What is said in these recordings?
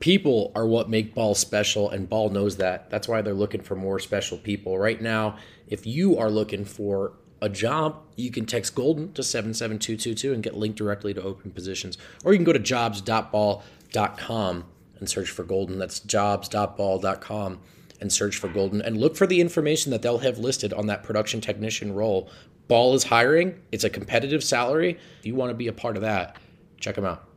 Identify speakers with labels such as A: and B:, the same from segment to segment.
A: People are what make Ball special, and Ball knows that. That's why they're looking for more special people. Right now, if you are looking for a job, you can text Golden to 77222 and get linked directly to open positions. Or you can go to jobs.ball.com and search for Golden. That's jobs.ball.com and search for Golden. And look for the information that they'll have listed on that production technician role. Ball is hiring. It's a competitive salary. If you want to be a part of that, check them out.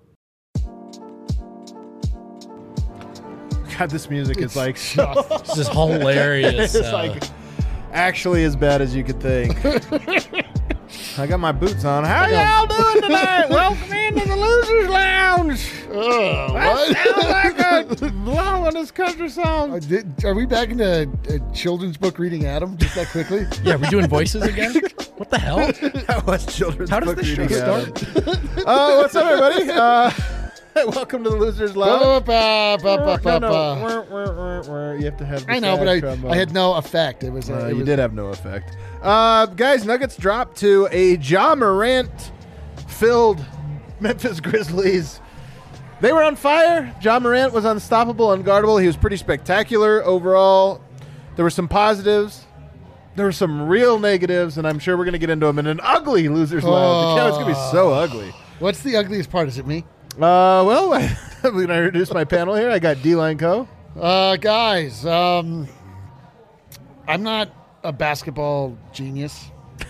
B: God, this music is like
C: this is hilarious.
B: It's like actually as bad as you could think. I got my boots on. How y'all doing tonight? Welcome into the Losers Lounge.
D: What?
B: Sounds like a blowing country song.
D: Are we back into children's book reading, Adam? Just that quickly?
C: Yeah, we're doing voices again? What the hell?
B: That was children's
C: How does
B: book
C: this show
B: reading.
C: start?
B: What's up, everybody? Welcome to the Losers Lounge. No. You have to have the
D: I know,
B: sad
D: but
B: trombone.
D: I had no effect. It was.
B: You did have no effect. Guys, Nuggets dropped to a Ja Morant-filled Memphis Grizzlies. They were on fire. Ja Morant was unstoppable, unguardable. He was pretty spectacular overall. There were some positives. There were some real negatives, and I'm sure we're going to get into them in an ugly Losers Lounge. It's going to be so ugly.
D: What's the ugliest part? Is it me?
B: Well, I'm going to introduce my panel here. I got D-Line Co.
D: Guys, I'm not a basketball genius.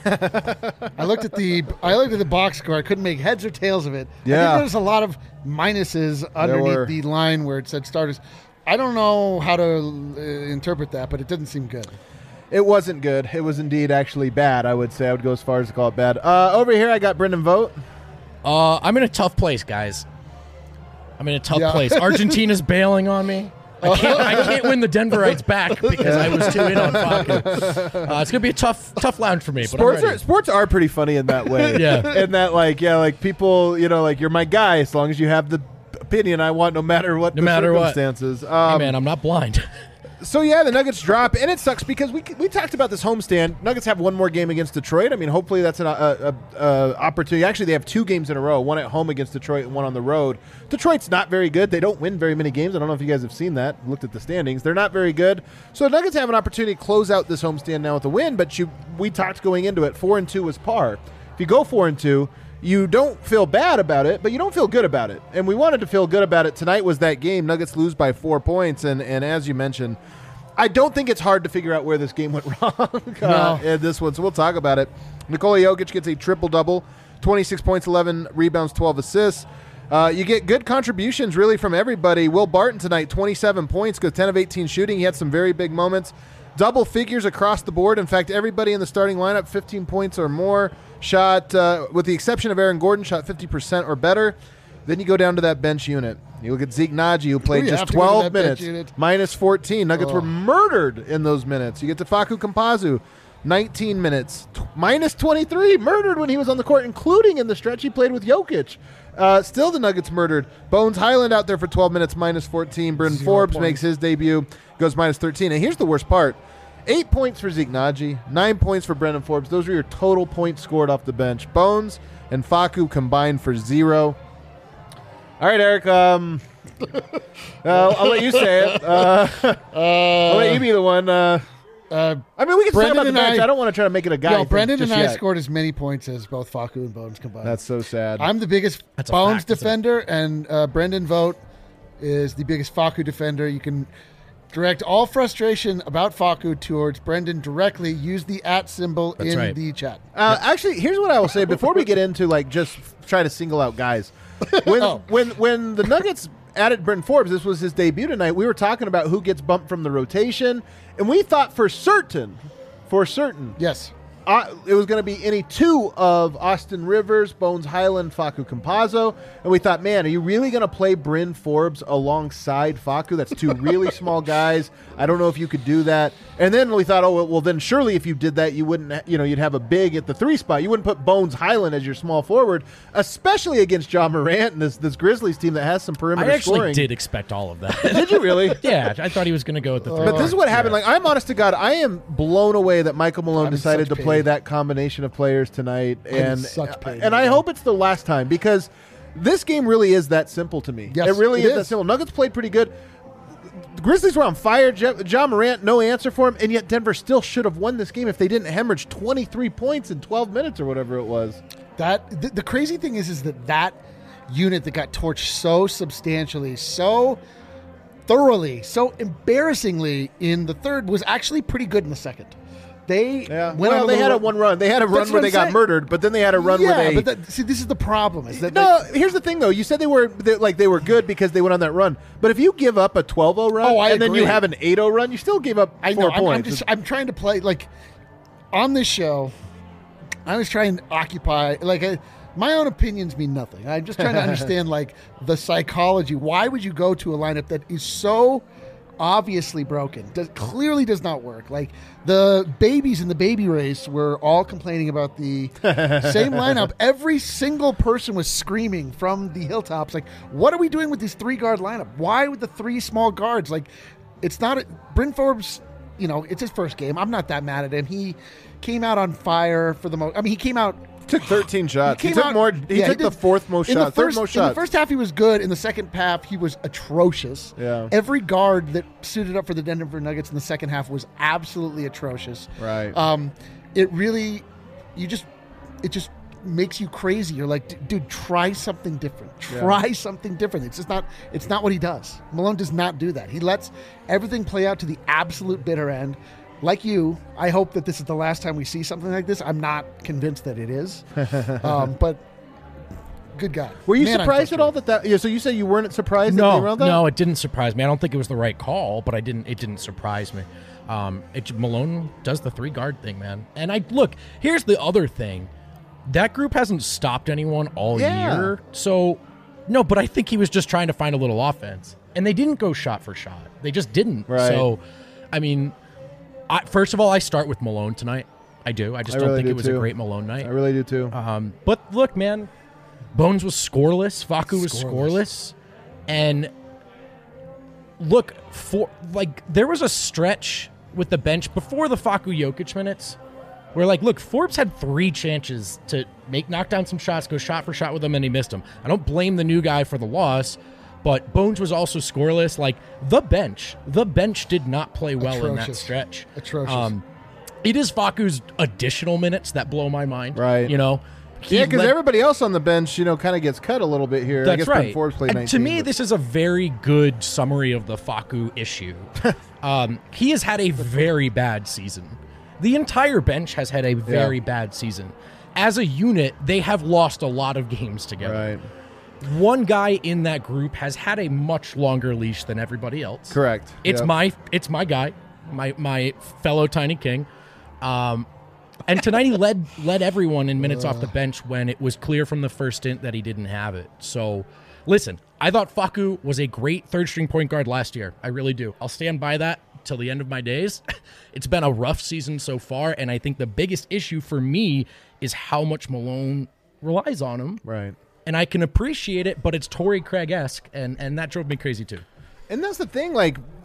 D: I looked at the box score. I couldn't make heads or tails of it.
B: Yeah.
D: I think there's a lot of minuses underneath the line where it said starters. I don't know how to interpret that, but it didn't seem good.
B: It wasn't good. It was indeed actually bad, I would say. I would go as far as to call it bad. Over here, I got Brendan Vogt.
C: I'm in a tough place, guys. I'm in a tough place. Argentina's bailing on me. I can't win the Denverites back because I was too in on Facu. It's gonna be a tough lounge for me. But
B: Sports are pretty funny in that way.
C: Yeah.
B: In that, like people, you're my guy as long as you have the opinion I want, no matter what circumstances.
C: Hey man, I'm not blind.
B: So yeah, the Nuggets drop, and it sucks because we talked about this homestand. Nuggets have one more game against Detroit. I mean, hopefully that's an opportunity. Actually, they have two games in a row, one at home against Detroit and one on the road. Detroit's not very good. They don't win very many games. I don't know if you guys have seen that, looked at the standings. They're not very good. So the Nuggets have an opportunity to close out this homestand now with a win, but we talked going into it, 4-2 was par. If you go 4-2, you don't feel bad about it, but you don't feel good about it. And we wanted to feel good about it. Tonight was that game. Nuggets lose by 4 points. And as you mentioned, I don't think it's hard to figure out where this game went wrong in this one. So we'll talk about it. Nikola Jokic gets a triple-double, 26 points, 11 rebounds, 12 assists. You get good contributions really from everybody. Will Barton tonight, 27 points, goes 10 of 18 shooting. He had some very big moments. Double figures across the board. In fact, everybody in the starting lineup, 15 points or more. Shot, with the exception of Aaron Gordon, shot 50% or better. Then you go down to that bench unit. You look at Zeke Naji, who played just 12 minutes, minus 14. Nuggets were murdered in those minutes. You get to Facu Campazzo, 19 minutes, minus 23, murdered when he was on the court, including in the stretch he played with Jokic. Still the Nuggets murdered. Bones Highland out there for 12 minutes, minus 14. Brendan Forbes makes his debut, goes minus 13. And here's the worst part. 8 points for Zeke Naji, 9 points for Brendan Forbes. Those are your total points scored off the bench. Bones and Facu combined for 0. All right, Eric. I'll let you say it. I'll let you be the one. I mean, we can talk about the bench. I don't want to try to make it a guy.
D: Brendan and I scored as many points as both Facu and Bones combined.
B: That's so sad.
D: I'm the biggest Bones defender, and Brendan Vogt is the biggest Facu defender. You can direct all frustration about Facu towards Brendan directly. Use the @ symbol in the chat.
B: Actually, here's what I will say before we get into just try to single out guys. When the Nuggets added Brendan Forbes, this was his debut tonight. We were talking about who gets bumped from the rotation, and we thought for certain,
D: yes,
B: it was going to be any two of Austin Rivers, Bones Highland, Facu Campazzo, and we thought, man, are you really going to play Bryn Forbes alongside Facu? That's two really small guys. I don't know if you could do that. And then we thought, oh, well, then surely if you did that, you wouldn't, you'd have a big at the 3 spot. You wouldn't put Bones Highland as your small forward, especially against Ja Morant and this Grizzlies team that has some perimeter scoring.
C: I actually did expect all of that.
B: Did you really?
C: Yeah, I thought he was going to go at the 3.
B: But this is what happened. Like, I'm honest to God, I am blown away that Michael Malone decided to play that combination of players tonight. And I hope it's the last time because This game really is that simple to me.
D: Yes,
B: it really
D: it
B: is that
D: is.
B: simple. Nuggets played pretty good. The Grizzlies were on fire. John Morant, no answer for him, and yet Denver still should have won this game if they didn't hemorrhage 23 points in 12 minutes or whatever it was.
D: The crazy thing is that unit that got torched so substantially, so thoroughly, so embarrassingly in the third was actually pretty good in the second. They
B: had a one run. They had a run where they got murdered, but then they had a run where they.
D: See, this is the problem. Is that
B: here's the thing though. You said they were good because they went on that run. But if you give up a 12-0 run and then you have an 8-0 run, you still gave up 4 points.
D: I'm trying to play on this show. I was trying to occupy my own opinions mean nothing. I'm just trying to understand the psychology. Why would you go to a lineup that is so obviously broken, clearly does not work? The babies in the baby race were all complaining about the same lineup. Every single person was screaming from the hilltops, what are we doing with this 3-guard lineup? Why with the 3 small guards? It's not Bryn Forbes, it's his first game. I'm not that mad at him. He came out on fire for the most. I mean, he came out.
B: Took 13 shots. He took more. He took the fourth most shots. Third most shots.
D: In the first half, he was good. In the second half, he was atrocious.
B: Yeah.
D: Every guard that suited up for the Denver Nuggets in the second half was absolutely atrocious.
B: Right.
D: It just makes you crazy. You're like, dude, try something different. Try something different. It's just not. It's not what he does. Malone does not do that. He lets everything play out to the absolute bitter end. Like you, I hope that this is the last time we see something like this. I'm not convinced that it is. But good God.
B: Were you surprised at all that? Yeah, so you say you weren't surprised that they ran that?
C: No, it didn't surprise me. I don't think it was the right call, but it didn't surprise me. Malone does the 3-guard thing, man. And here's the other thing. That group hasn't stopped anyone all year. So, no, but I think he was just trying to find a little offense. And they didn't go shot for shot. They just didn't.
B: Right.
C: So, I mean, first of all, I start with Malone tonight. I do. I just don't think it was a great Malone night.
B: I really do too.
C: But look, man, Bones was scoreless. Facu was scoreless. And look, there was a stretch with the bench before the Facu Jokic minutes where, Forbes had 3 chances to knock down some shots, go shot for shot with them, and he missed them. I don't blame the new guy for the loss, but Bones was also scoreless. The bench did not play well in that stretch.
D: Atrocious.
C: It is Facu's additional minutes that blow my mind.
B: Right. Because everybody else on the bench, kind of gets cut a little bit here.
C: That's
B: I guess
C: right.
B: Forbes played 19.
C: To me, this is a very good summary of the Facu issue. He has had a very bad season. The entire bench has had a very bad season. As a unit, they have lost a lot of games together.
B: Right.
C: One guy in that group has had a much longer leash than everybody else.
B: Correct.
C: It's my guy, my fellow Tiny King. And tonight he led everyone in minutes off the bench when it was clear from the first stint that he didn't have it. So, listen, I thought Facu was a great third-string point guard last year. I really do. I'll stand by that till the end of my days. It's been a rough season so far, and I think the biggest issue for me is how much Malone relies on him.
B: Right.
C: And I can appreciate it, but it's Torrey Craig-esque, and that drove me crazy too.
B: And that's the thing,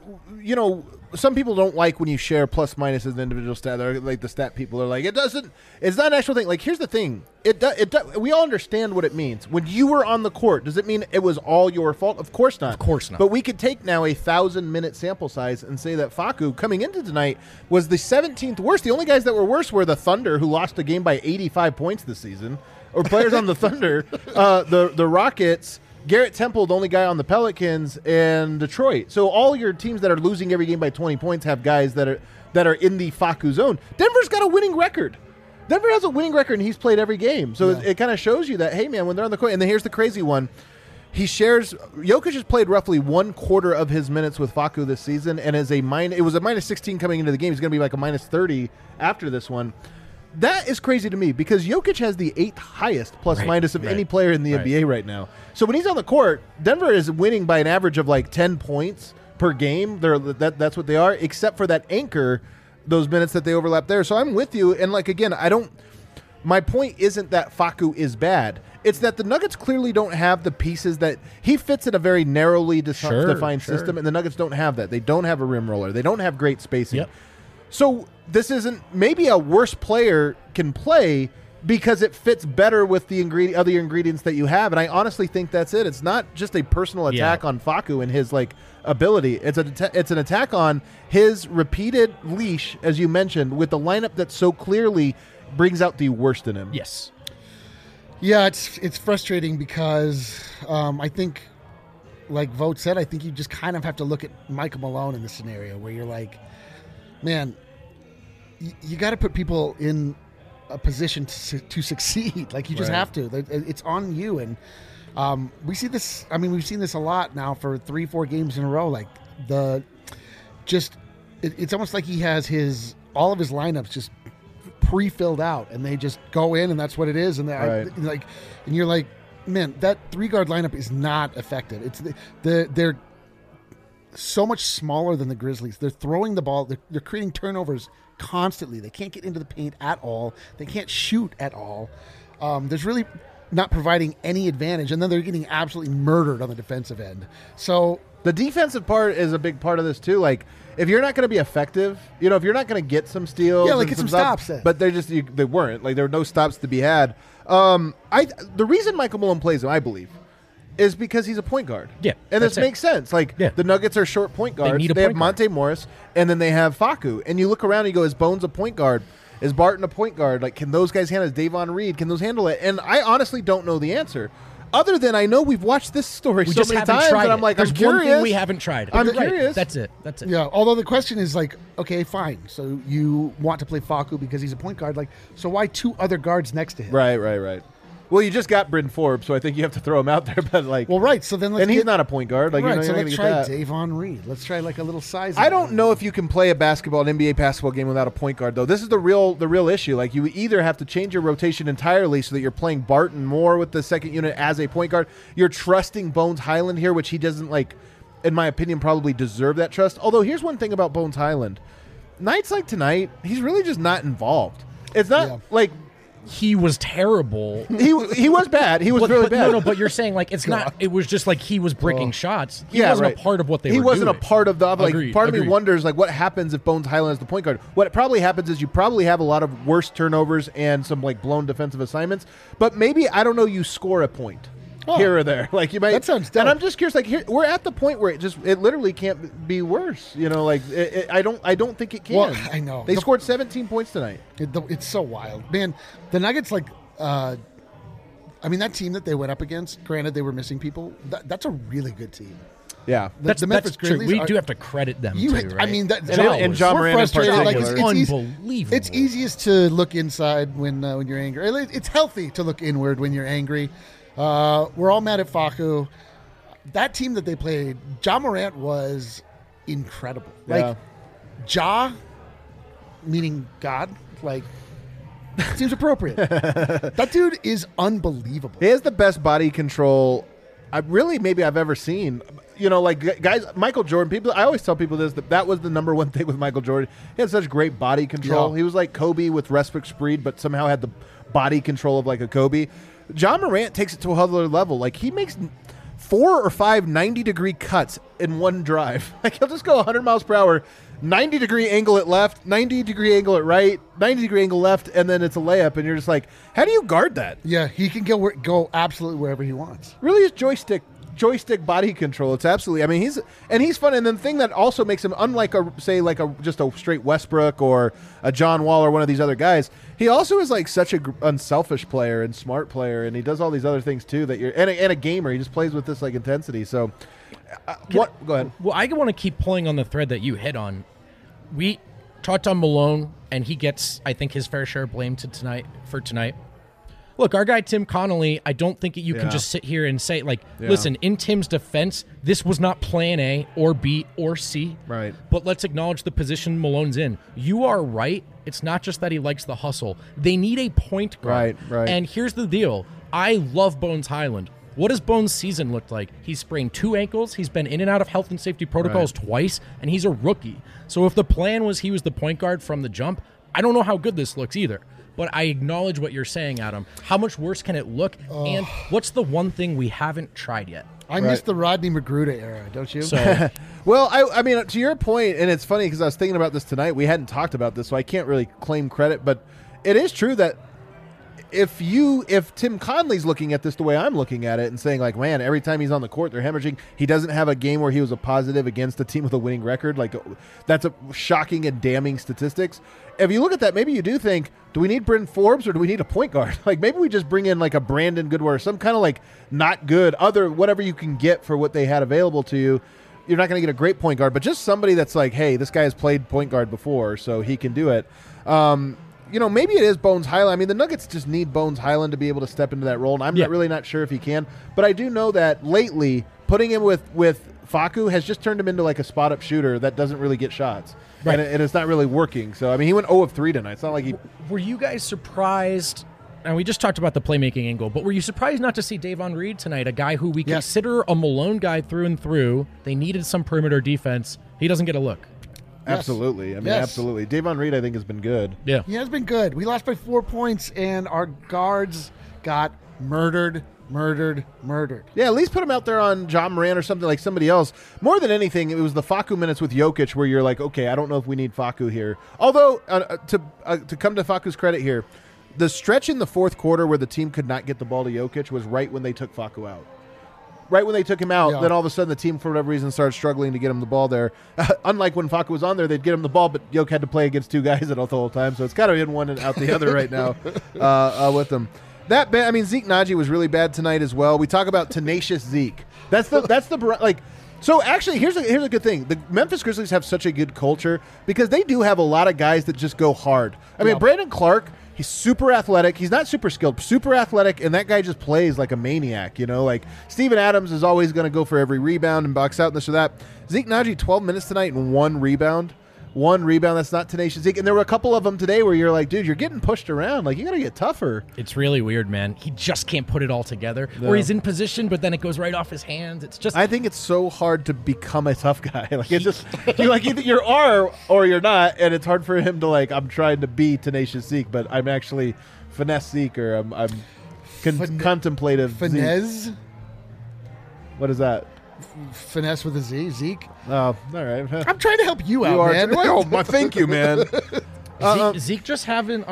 B: some people don't like when you share plus minus as an individual stat. They're the stat people are like, it's not an actual thing. Here's the thing. We all understand what it means. When you were on the court, does it mean it was all your fault? Of course not.
C: Of course not.
B: But we could take now a 1,000-minute sample size and say that Facu, coming into tonight, was the 17th worst. The only guys that were worse were the Thunder, who lost a game by 85 points this season, or players on the Thunder, the Rockets, Garrett Temple, the only guy on the Pelicans, and Detroit. So all your teams that are losing every game by 20 points have guys that are in the Facu zone. Denver's got a winning record. Denver has a winning record, and he's played every game. So it kind of shows you that, hey, man, when they're on the court. And then here's the crazy one. Jokic has played roughly 1/4 of his minutes with Facu this season, and it was a minus 16 coming into the game. He's going to be like a minus 30 after this one. That is crazy to me because Jokic has the 8th highest plus minus of any player in the NBA right now. So when he's on the court, Denver is winning by an average of 10 points per game. That's what they are, except for that anchor, those minutes that they overlap there. So I'm with you. And again, my point isn't that Facu is bad. It's that the Nuggets clearly don't have the pieces that he fits in a very narrowly defined system, and the Nuggets don't have that. They don't have a rim roller. They don't have great spacing.
C: Yep.
B: So this isn't maybe a worse player can play, because it fits better with the other ingredients that you have. And I honestly think that's it. It's not just a personal attack on Facu and his ability. It's an attack on his repeated leash, as you mentioned, with the lineup that so clearly brings out the worst in him.
C: Yes.
D: Yeah, it's frustrating because I think, like Vogt said, I think you just kind of have to look at Michael Malone in this scenario where you're like, man, you got to put people in a position to succeed. Like, you just have to. It's on you. And we see this. I mean, we've seen this a lot now for 3-4 games in a row. Like, it's almost like he has all of his lineups just pre-filled out, and they just go in, and that's what it is. And and you're like, man, that 3-guard lineup is not effective. It's they're so much smaller than the Grizzlies. They're throwing the ball. They're creating turnovers constantly. They can't get into the paint at all. They can't shoot at all. There's really not providing any advantage, and then they're getting absolutely murdered on the defensive end. So
B: the defensive part is a big part of this too. Like, if you're not going to be effective, if you're not going to get some steals,
D: get some stops,
B: but they weren't. Like, there were no stops to be had. The reason Michael Malone plays him, I believe, is because he's a point guard.
C: Yeah,
B: and this makes sense. Like, the Nuggets are short point guards. They have Monte Morris, and then they have Facu. And you look around and you go, is Bones a point guard? Is Barton a point guard? Like, can those guys handle it? Is Davon Reed? Can those handle it? And I honestly don't know the answer. Other than I know we've watched this story so many times, and I'm like,
C: There's
B: I'm curious.
C: One thing we haven't tried.
B: I'm curious.
C: That's it.
D: Yeah. Although the question is like, okay, fine. So you want to play Facu because he's a point guard. Like, so why 2 other guards next to him?
B: Right. Well, you just got Bryn Forbes, so I think you have to throw him out there. But
D: So then
B: he's not a point guard. Like,
D: so let's try Davon Reed. Let's try like a little size.
B: I don't know if you can play an NBA basketball game without a point guard, though. This is the real issue. Like, you either have to change your rotation entirely so that you're playing Barton more with the second unit as a point guard. You're trusting Bones Highland here, which he doesn't, like, in my opinion, probably deserve that trust. Although here's one thing about Bones Highland: nights like tonight, he's really just not involved. It's not like.
C: He was terrible.
B: He was bad. He was really bad.
C: No, but you're saying like it's not. It was just like he was bricking shots. He wasn't a part of what they were doing.
B: He wasn't a part of the. Like,
C: Agreed.
B: Part of me wonders like what happens if Bones Highland is the point guard. What probably happens is you probably have a lot of worse turnovers and some like blown defensive assignments. But maybe, I don't know, you score a point here or there. Like, you might.
D: That sounds dope.
B: And I'm just curious. Like, here we're at the point where it literally can't be worse. Like, I don't think it can.
D: Well, I know
B: they scored 17 points tonight.
D: It's so wild, man. The Nuggets, like. I mean, that team that they went up against, granted they were missing people, that's a really good team.
B: Yeah.
D: The Memphis Grizzlies.
C: We do have to credit them, too, right?
D: I mean,
B: and John Moran in particular.
D: Like,
C: unbelievable.
D: It's easiest to look inside when you're angry. It's healthy to look inward when you're angry. We're all mad at Facu. That team that they played, Ja Morant was incredible. Like, Ja, meaning God, like... seems appropriate. That dude is unbelievable.
B: He has the best body control maybe I've ever seen. Like, guys, Michael Jordan, I always tell people this, that was the number one thing with Michael Jordan. He had such great body control.
D: Yeah.
B: He was like Kobe with respite speed, but somehow had the body control of like a Kobe. Ja Morant takes it to another level. Like, he makes 4 or 5 90-degree cuts in one drive. Like, he'll just go 100 miles per hour, 90-degree angle at left, 90-degree angle at right, 90-degree angle left, and then it's a layup, and you're just like, how do you guard that?
D: Yeah, he can go absolutely wherever he wants.
B: Really is joystick body control. It's absolutely. I mean, he's fun. And then the thing that also makes him unlike just a straight Westbrook or a John Wall or one of these other guys. He also is like such a unselfish player and smart player, and he does all these other things too. And a gamer. He just plays with this like intensity. So, Go ahead.
C: Well, I want to keep pulling on the thread that you hit on. We talked on Malone, and he gets, I think, his fair share of blame tonight. Look, our guy Tim Connolly, I don't think you can just sit here and say, listen, in Tim's defense, this was not plan A or B or C.
B: Right.
C: But let's acknowledge the position Malone's in. You are right. It's not just that he likes the hustle. They need a point guard.
B: Right.
C: And here's the deal. I love Bones Highland. What does Bones' season look like? He's sprained 2 ankles. He's been in and out of health and safety protocols twice, and he's a rookie. So if the plan was he was the point guard from the jump, I don't know how good this looks either. But I acknowledge what you're saying, Adam. How much worse can it look? And what's the one thing we haven't tried yet?
D: I miss the Rodney Magruder era, don't you?
C: So,
B: well, I mean, to your point, and it's funny because I was thinking about this tonight. We hadn't talked about this, so I can't really claim credit. But it is true that if Tim Conley's looking at this the way I'm looking at it and saying like, man, every time he's on the court, they're hemorrhaging. He doesn't have a game where he was a positive against a team with a winning record. Like, that's a shocking and damning statistics. If you look at that, maybe you do think, do we need Bryn Forbes or do we need a point guard? Like, maybe we just bring in like a Brandon Goodwin or some kind of like not good other whatever you can get for what they had available to you. You're not going to get a great point guard, but just somebody that's like, hey, this guy has played point guard before, so he can do it. Maybe it is Bones Highland. I mean, the Nuggets just need Bones Highland to be able to step into that role, and I'm not sure if he can. But I do know that lately, putting him with Facu has just turned him into like a spot-up shooter that doesn't really get shots. Right. And it's not really working. So, I mean, he went 0 of 3 tonight. It's not like he...
C: Were you guys surprised... And we just talked about the playmaking angle, but were you surprised not to see Davon Reed tonight, a guy who we consider a Malone guy through and through? They needed some perimeter defense. He doesn't get a look.
B: Yes. Absolutely. I mean, absolutely. Davon Reed, I think, has been good.
C: Yeah.
D: He has been good. We lost by 4 points, and our guards got murdered.
B: Yeah, at least put him out there on John Moran or something like somebody else. More than anything, it was the Facu minutes with Jokic where you're like, okay, I don't know if we need Facu here. Although, to come to Facu's credit here, the stretch in the fourth quarter where the team could not get the ball to Jokic was right when they took Facu out. Right when they took him out, then all of a sudden the team, for whatever reason, started struggling to get him the ball there. Unlike when Facu was on there, they'd get him the ball, but Jokic had to play against two guys the whole time, so it's kind of in one and out the other right now with them. Zeke Naji was really bad tonight as well. We talk about tenacious Zeke. So actually, here's a good thing. The Memphis Grizzlies have such a good culture because they do have a lot of guys that just go hard. I mean, Brandon Clark, he's super athletic. He's not super skilled, super athletic, and that guy just plays like a maniac, Like, Steven Adams is always going to go for every rebound and box out and this or that. Zeke Naji, 12 minutes tonight and 1 rebound. 1 rebound, that's not tenacious Zeke. And there were a couple of them today where you're like, dude, you're getting pushed around. Like, you got to get tougher.
C: It's really weird, man. He just can't put it all together. No. Or he's in position, but then it goes right off his hands. It's just...
B: I think it's so hard to become a tough guy. Like, it's just... either you are or you're not, and it's hard for him to, like, I'm trying to be tenacious Zeke, but I'm actually finesse Zeke, or I'm contemplative
D: Finesse?
B: Zeke. What is that?
D: Finesse with a Z, Zeke.
B: Oh, all right.
D: I'm trying to help you out, man.
B: Thank you, man.
C: Zeke just hasn't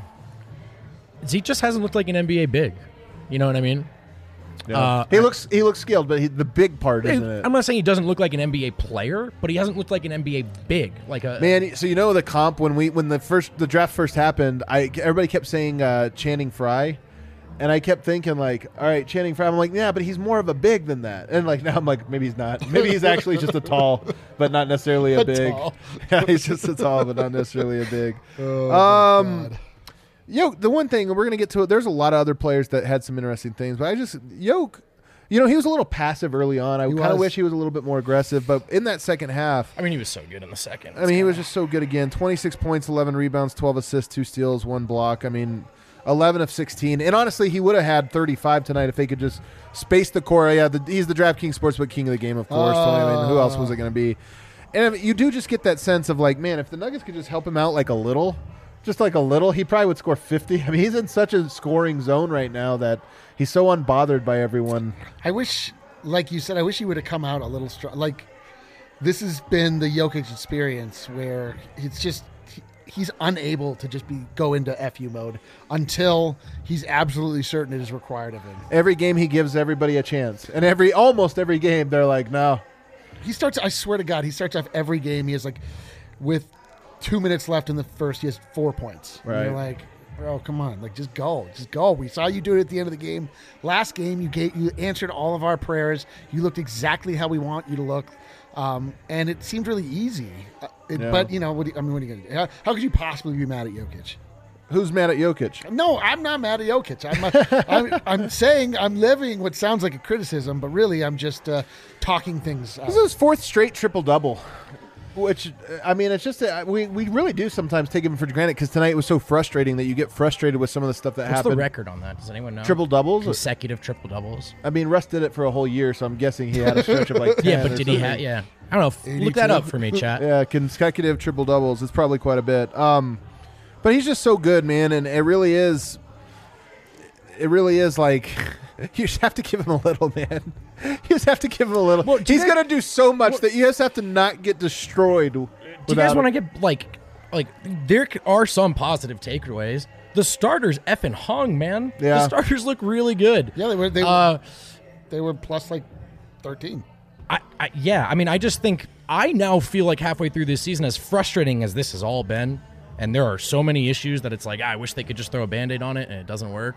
C: looked like an NBA big. You know what I mean?
B: Yeah. He looks skilled, but the big part isn't it.
C: I'm not saying he doesn't look like an NBA player, but he hasn't looked like an NBA big.
B: Man, so the comp when the draft first happened, everybody kept saying Channing Frye. And I kept thinking, like, all right, Channing Frye. I'm like, yeah, but he's more of a big than that. And, like, now I'm like, maybe he's not. Maybe he's actually just a tall, but not necessarily a big. Yeah, he's just a tall, but not necessarily a big.
D: Oh,
B: the one thing, we're going to get to it, there's a lot of other players that had some interesting things. But Yoke, he was a little passive early on. I kind of wish he was a little bit more aggressive. But in that second half.
C: I mean, he was so good in the second.
B: He was just so good again. 26 points, 11 rebounds, 12 assists, 2 steals, 1 block. 11 of 16. And honestly, he would have had 35 tonight if they could just space the core. Yeah, he's the DraftKings Sportsbook king of the game, of course. So, who else was it going to be? And you do just get that sense of, like, man, if the Nuggets could just help him out like a little, he probably would score 50. He's in such a scoring zone right now that he's so unbothered by everyone.
D: I wish, like you said, he would have come out a little strong. Like, this has been the Jokic experience where it's just... He's unable to just go into FU mode until he's absolutely certain it is required of him.
B: Every game he gives everybody a chance. And almost every game they're like, no.
D: I swear to God, he starts off every game. He has with 2 minutes left in the first, he has 4 points.
B: Right.
D: And you're like, bro, come on. Like, just go. We saw you do it at the end of the game. Last game, you answered all of our prayers. You looked exactly how we want you to look. And it seemed really easy. But, what are you going to do? How could you possibly be mad at Jokic?
B: Who's mad at Jokic?
D: No, I'm not mad at Jokic. I'm saying I'm levying what sounds like a criticism, but really I'm just talking things out.
B: This is his 4th straight triple-double, which, it's just we really do sometimes take him for granted because tonight was so frustrating that you get frustrated with some of the stuff that happened.
C: What's the record on that? Does anyone know?
B: Triple-doubles?
C: Consecutive triple-doubles.
B: Russ did it for a whole year, so I'm guessing he had a stretch of 10.
C: Yeah, but did he have... Yeah. I don't know. 82. Look that up for me, chat.
B: Yeah, consecutive triple-doubles. It's probably quite a bit. But he's just so good, man, and it really is like you just have to give him a little, man. You just have to give him a little. Well, he's going to do so much that you just have to not get destroyed.
C: Do you guys want to get, like there are some positive takeaways. The starters effing hung, man.
B: Yeah.
C: The starters look really good.
D: Yeah, they were plus like 13.
C: I mean, I just think I now feel like halfway through this season, as frustrating as this has all been, and there are so many issues that it's like, I wish they could just throw a Band-Aid on it and it doesn't work.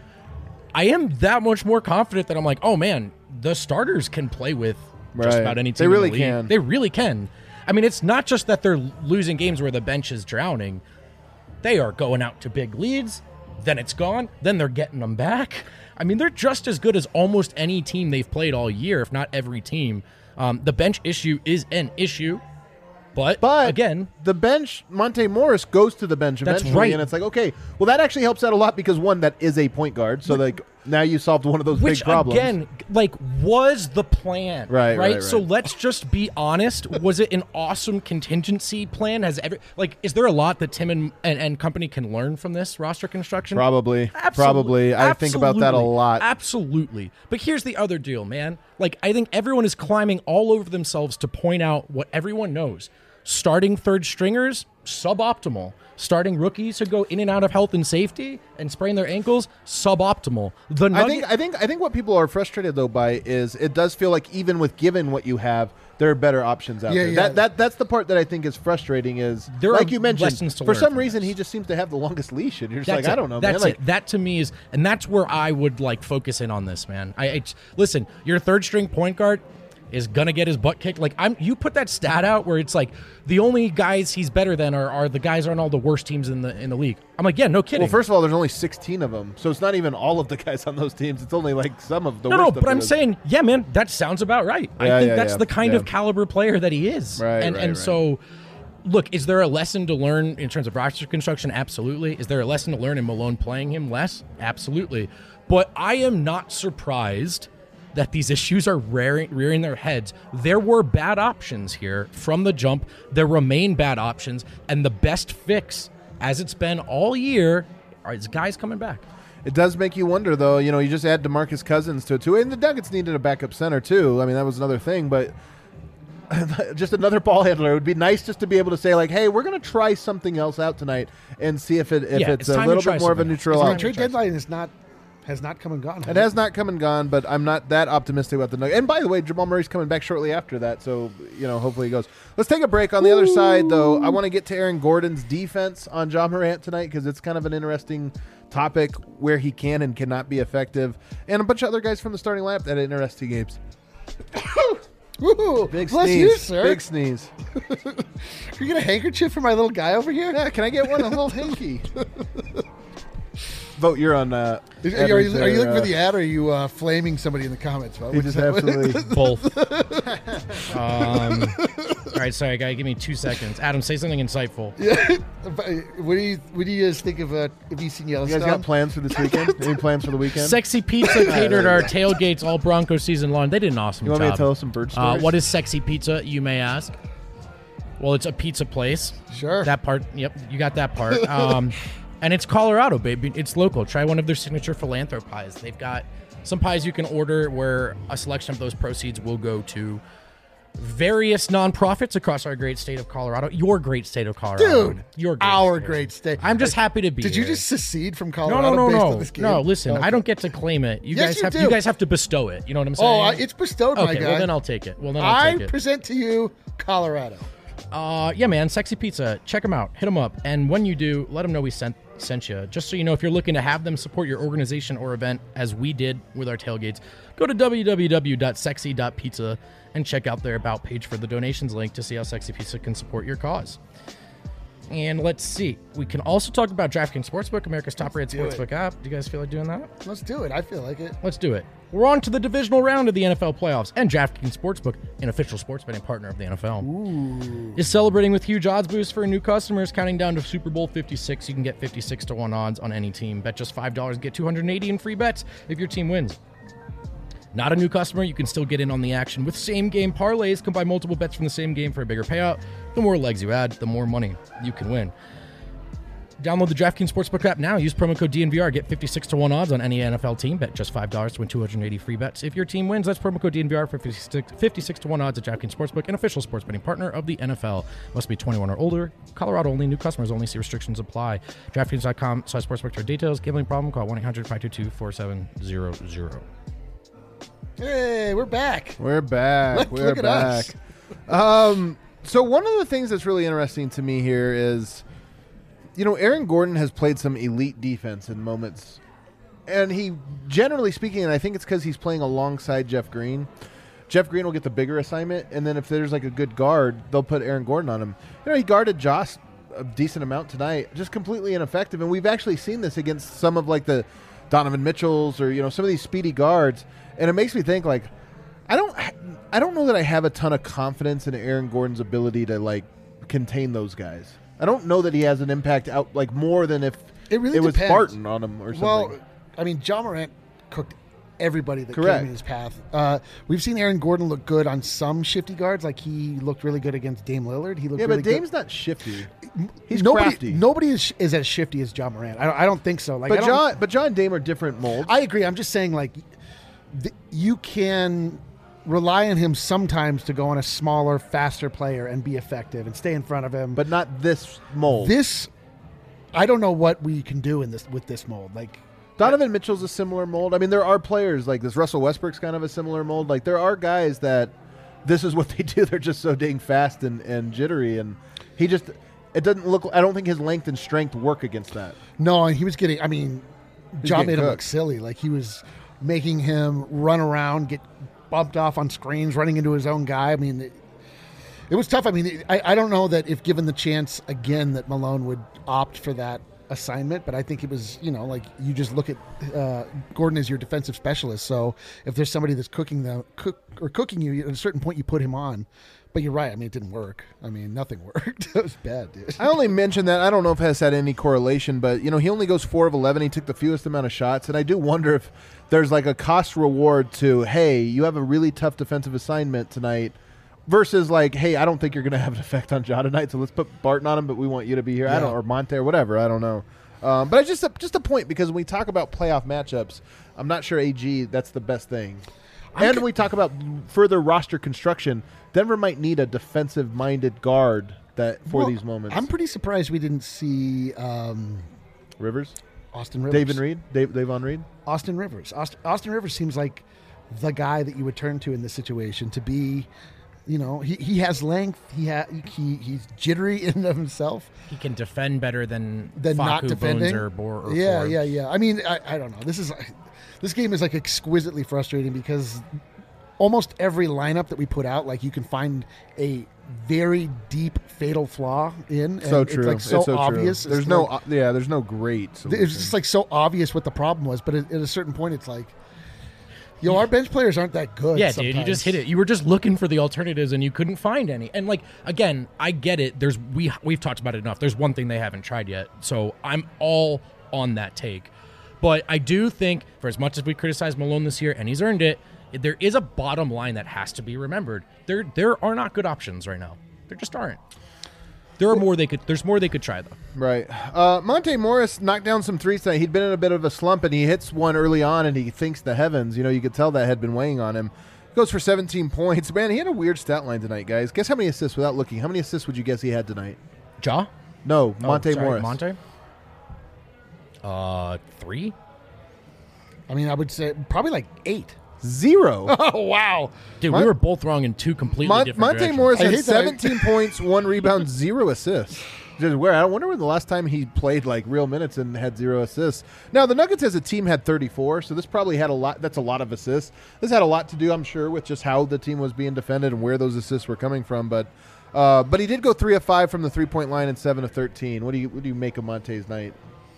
C: I am that much more confident that I'm like, oh man, the starters can play with just about any team.
B: They really
C: in the league.
B: can.
C: They really can. I mean, it's not just that they're losing games where the bench is drowning. They are going out to big leads, then it's gone, then they're getting them back. I mean, they're just as good as almost any team they've played all year, if not every team. The bench issue is an issue, but again,
B: the bench, Monte Morris goes to the bench
C: That's
B: eventually,
C: right.
B: and it's like, okay, well, that actually helps out a lot because one, that is a point guard, so like now you solved one of those
C: which
B: big problems.
C: again, like, was the plan,
B: Right.
C: So let's just be honest. Was it an awesome contingency plan? Is there a lot that Tim and company can learn from this roster construction?
B: Probably.
C: Absolutely.
B: I think about that a lot.
C: Absolutely. But here's the other deal, man. Like, I think everyone is climbing all over themselves to point out what everyone knows. Starting third stringers, suboptimal. Starting rookies who go in and out of health and safety and sprain their ankles, suboptimal.
B: I think what people are frustrated though by is it does feel like even with given what you have, there are better options out there.
D: Yeah.
B: That's the part that I think is frustrating is
C: There
B: like
C: are
B: you mentioned,
C: lessons to
B: for
C: learn
B: some
C: from
B: reason
C: this.
B: he just seems to have the longest leash and you're just
C: That's
B: like,
C: it.
B: I don't know,
C: That's
B: man.
C: it. That to me is, and that's where I would like focus in on this, man. Listen, your third string point guard is gonna get his butt kicked. Like you put that stat out where it's like the only guys he's better than are the guys on all the worst teams in the league. I'm like, yeah, no kidding.
B: Well, first of all, there's only 16 of them, so it's not even all of the guys on those teams. It's only like some of the worst.
C: No, but
B: of
C: I'm
B: those.
C: saying, yeah, man, that sounds about right. I think that's the kind of caliber player that he is.
B: Right.
C: So, look, is there a lesson to learn in terms of roster construction? Absolutely. Is there a lesson to learn in Malone playing him less? Absolutely. But I am not surprised that these issues are rearing their heads. There were bad options here from the jump. There remain bad options. And the best fix, as it's been all year, is guys coming back.
B: It does make you wonder, though. You know, you just add DeMarcus Cousins to it, too. And the Nuggets needed a backup center, too. I mean, that was another thing. But just another ball handler. It would be nice just to be able to say, like, hey, we're going to try something else out tonight and see if it's a
C: time to
B: little
C: try
B: bit more of a
C: something.
B: neutral
D: The
B: option.
D: trade deadline has not come and gone.
B: It has not come and gone, but I'm not that optimistic about the Nuggets. And by the way, Jamal Murray's coming back shortly after that, so hopefully he goes. Let's take a break. On the other side, though, I want to get to Aaron Gordon's defense on Ja Morant tonight because it's kind of an interesting topic where he can and cannot be effective, and a bunch of other guys from the starting lineup that had interesting games.
D: Ooh,
B: Big
D: bless
B: sneeze,
D: you, sir.
B: big sneeze.
D: You get a handkerchief for my little guy over here?
B: Yeah, can I get one? A little hanky. Vote, you're on.
D: Are you looking for the ad, or are you flaming somebody in the comments? Vote?
B: He just absolutely.
C: Both. All right, sorry, guy. Give me 2 seconds. Adam, say something insightful.
D: What do you guys think of? Have you seen
B: You
D: Yellowstone?
B: guys got plans for this weekend? Any plans for the weekend?
C: Sexy Pizza catered our tailgates all Bronco season long. They did an awesome
B: You want me
C: job.
B: to tell us some bird stories?
C: What is Sexy Pizza, you may ask? Well, it's a pizza place.
D: Sure.
C: That part, yep, you got that part. And it's Colorado, baby. It's local. Try one of their signature philanthro pies. They've got some pies you can order where a selection of those proceeds will go to various nonprofits across our great state of Colorado. Your great state of Colorado.
D: Dude,
C: your great
D: our
C: state.
D: great state.
C: I'm just happy to be
D: Did
C: here.
D: you just secede from Colorado based on this game?
C: No, listen,
D: Okay.
C: I don't get to claim it. You
D: Yes,
C: guys
D: you
C: have
D: do.
C: you guys have to bestow it. You know what I'm saying?
D: Oh, it's bestowed, my
C: okay,
D: guy.
C: well then I'll take it. I'll take it.
D: present to you Colorado.
C: Yeah, man, Sexy Pizza. Check them out. Hit them up. And when you do, let them know we sent you. Just so you know, if you're looking to have them support your organization or event, as we did with our tailgates, go to www.sexy.pizza and check out their About page for the donations link to see how Sexy Pizza can support your cause. And let's see. We can also talk about DraftKings Sportsbook, America's top-rated sportsbook app. Do you guys feel like doing that?
D: Let's do it. I feel like it.
C: Let's do it. We're on to the divisional round of the NFL playoffs, and DraftKings Sportsbook, an official sports betting partner of the NFL, is celebrating with huge odds boosts for new customers. Counting down to Super Bowl 56, you can get 56-1 odds on any team. Bet just $5 and get $280 in free bets if your team wins. Not a new customer, you can still get in on the action with same-game parlays. Combine multiple bets from the same game for a bigger payout. The more legs you add, the more money you can win. Download the DraftKings Sportsbook app now. Use promo code DNVR. Get 56 to 1 odds on any NFL team. Bet just $5 to win 280 free bets. If your team wins, that's promo code DNVR for 56 to 1 odds at DraftKings Sportsbook, an official sports betting partner of the NFL. Must be 21 or older. Colorado only. New customers only. See restrictions apply. DraftKings.com/sportsbook for details. Gambling problem? Call 1-800-522-4700.
D: Hey, we're back.
B: We're back.
D: Look at us.
B: So one of the things that's really interesting to me here is, Aaron Gordon has played some elite defense in moments, and he, generally speaking, and I think it's because he's playing alongside Jeff Green. Jeff Green will get the bigger assignment, and then if there's like a good guard, they'll put Aaron Gordon on him. He guarded Josh a decent amount tonight, just completely ineffective, and we've actually seen this against some of like the Donovan Mitchells or some of these speedy guards, and it makes me think like I don't know that I have a ton of confidence in Aaron Gordon's ability to like contain those guys. I don't know that he has an impact out like more than if
D: it really
B: was
D: depends.
B: Barton on him or something.
D: Well, I mean, Ja Morant cooked everybody that
B: Correct.
D: came in his path. We've seen Aaron Gordon look good on some shifty guards. Like he looked really good against Dame Lillard. He looked really
B: but Dame's
D: good.
B: not shifty. He's crafty.
D: Nobody is as shifty as Ja Morant. I don't think so. Like,
B: But John and Dame are different molds.
D: I agree. I'm just saying, like, you can rely on him sometimes to go on a smaller, faster player and be effective and stay in front of him.
B: but not this mold.
D: I don't know what we can do with this mold. Like,
B: Donovan Mitchell's a similar mold. I mean, there are players like this. Russell Westbrook's kind of a similar mold. Like, there are guys that this is what they do. They're just so dang fast and jittery, and it doesn't look. I don't think his length and strength work against that.
D: no, and he was getting. I mean, Ja made him look
B: cooked.
D: silly. Like he was making him run around, get bumped off on screens, running into his own guy. I mean, it was tough. I mean, I don't know that if given the chance again that Malone would opt for that assignment, but I think it was, like you just look at Gordon as your defensive specialist. So if there's somebody that's cooking you, at a certain point you put him on. But you're right. I mean, it didn't work. I mean, nothing worked. It was bad, dude.
B: I only mentioned that. I don't know if it has had any correlation, but, he only goes 4 of 11. He took the fewest amount of shots, and I do wonder if there's like a cost reward to, hey, you have a really tough defensive assignment tonight versus like, hey, I don't think you're going to have an effect on Ja tonight, so let's put Barton on him, but we want you to be here.
D: Yeah.
B: Or Monte or whatever. I don't know. But it's just a point, because when we talk about playoff matchups, I'm not sure AG, that's the best thing. And when we talk about further roster construction, Denver might need a defensive-minded guard for these moments.
D: I'm pretty surprised we didn't see
B: Rivers?
D: Austin Rivers.
B: Davon Reed? Davon Reed?
D: Austin Rivers. Austin Rivers seems like the guy that you would turn to in this situation to be, he has length. He's jittery in and of himself.
C: He can defend better than
D: not
C: Facu,
D: defending.
C: Bones, or
D: Yeah,
C: Ford.
D: yeah. I mean, I don't know. This game is like exquisitely frustrating because almost every lineup that we put out, like you can find a very deep fatal flaw in. And
B: So true.
D: It's like so obvious.
B: True. There's no great solution.
D: It's just like so obvious what the problem was, but at a certain point, it's like, our bench players aren't that good.
C: Yeah,
D: sometimes.
C: dude, you just hit it. You were just looking for the alternatives and you couldn't find any. And like, again, I get it. We've talked about it enough. There's one thing they haven't tried yet. So I'm all on that take. But I do think, for as much as we criticize Malone this year, and he's earned it, there is a bottom line that has to be remembered. There are not good options right now. There just aren't. There's more they could try, though.
B: Right. Monte Morris knocked down some threes tonight. He'd been in a bit of a slump, and he hits one early on, and he thinks the heavens. You could tell that had been weighing on him. Goes for 17 points. Man, he had a weird stat line tonight, guys. Guess how many assists without looking. How many assists would you guess he had tonight?
C: Ja?
B: No, Monte Morris.
C: Monte? 3?
D: I mean, I would say probably like 8.
B: 0.
D: Oh, wow.
C: Dude, we were both wrong in two completely different
B: Monte
C: directions.
B: Morris
D: I
B: had
D: hate that.
B: 17 points, 1 rebound, 0 assists. Just weird. I wonder when the last time he played like real minutes and had 0 assists. Now, the Nuggets as a team had 34, so this probably had a lot. That's a lot of assists. This had a lot to do, I'm sure, with just how the team was being defended and where those assists were coming from. But he did go 3 of 5 from the 3-point line and 7 of 13. What do you make of Monte's night?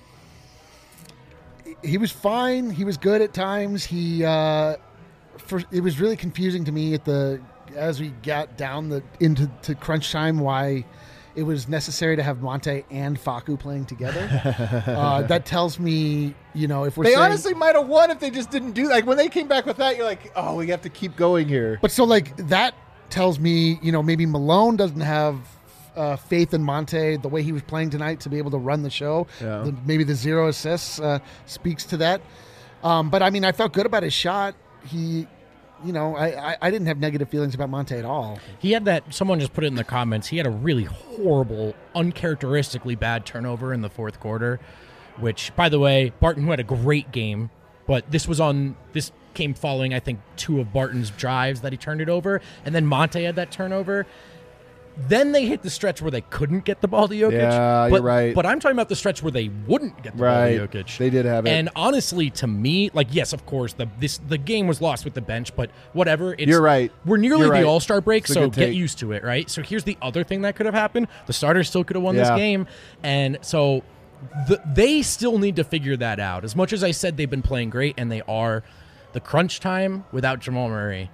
D: He was fine. He was good at times. It was really confusing to me as we got down into crunch time why it was necessary to have Monte and Facu playing together. That tells me, if we're
B: They
D: saying,
B: honestly might have won if they just didn't do that. Like when they came back with that, you're like, oh, we have to keep going here.
D: But so like that tells me, maybe Malone doesn't have faith in Monte, the way he was playing tonight, to be able to run the show.
B: Yeah.
D: Maybe the 0 assists speaks to that. But I mean, I felt good about his shot. I didn't have negative feelings about Monte at all.
C: He had that, someone just put it in the comments, he had a really horrible, uncharacteristically bad turnover in the fourth quarter, which, by the way, Barton, who had a great game, but this came following, I think, 2 of Barton's drives that he turned it over, and then Monte had that turnover. Then they hit the stretch where they couldn't get the ball to Jokic.
B: Yeah, you're right.
C: But I'm talking about the stretch where they wouldn't get the ball to Jokic.
B: They did have it.
C: And honestly, to me, yes, of course, the game was lost with the bench, but whatever.
B: You're right.
C: We're nearly
B: You're right.
C: the All-Star break,
B: It's a
C: so
B: good
C: get
B: take.
C: used to it, right? So here's the other thing that could have happened. The starters still could have won this game. And so they still need to figure that out. As much as I said they've been playing great, and they are, the crunch time without Jamal Murray,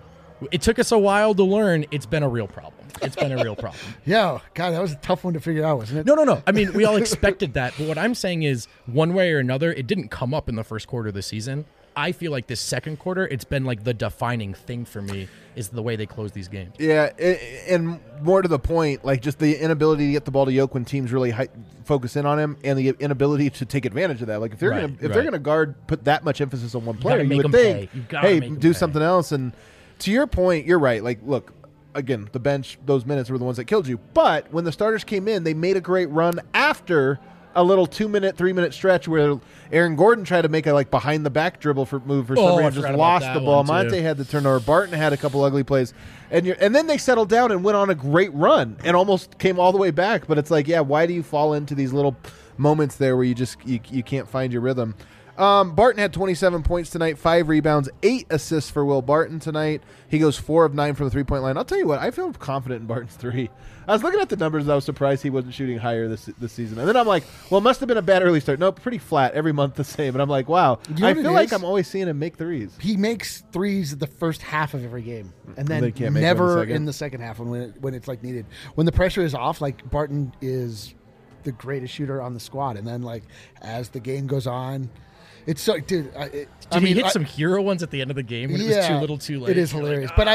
C: it took us a while to learn it's been a real problem. It's been a real problem.
D: Yeah, God, that was a tough one to figure out, wasn't it?
C: No. I mean, we all expected that. But what I'm saying is, one way or another, it didn't come up in the first quarter of the season. I feel like this second quarter, it's been like the defining thing for me is the way they close these games.
B: Yeah, and more to the point, like just the inability to get the ball to Yoke when teams really focus in on him, and the inability to take advantage of that. Like if they're gonna guard, put that much emphasis on one player, you would think, hey, do something else. And to your point, you're right. Like, look, again, the bench, those minutes were the ones that killed you. But when the starters came in, they made a great run after a little 2-minute, 3-minute stretch where Aaron Gordon tried to make a behind the back dribble move for some reason, just lost the ball. Monte had the turnover. Barton had a couple ugly plays, and then they settled down and went on a great run and almost came all the way back. But it's like, yeah, why do you fall into these little moments there where you just you can't find your rhythm? Barton had 27 points tonight, 5 rebounds, 8 assists for Will Barton tonight. He goes 4 of 9 from the 3-point line. I'll tell you what, I feel confident in Barton's 3. I was looking at the numbers and I was surprised he wasn't shooting higher this season. And then I'm like, well, it must have been a bad early start. No, pretty flat every month the same. And I'm like, wow, I feel like I'm always seeing him make threes.
D: He makes threes the first half of every game, and then
B: can't make
D: never
B: them
D: in the second half when it's like needed. When the pressure is off, like Barton is the greatest shooter on the squad. And then as the game goes on, it's so, dude.
C: He hit some hero ones at the end of the game when it was too little, too late.
D: It is hilarious, but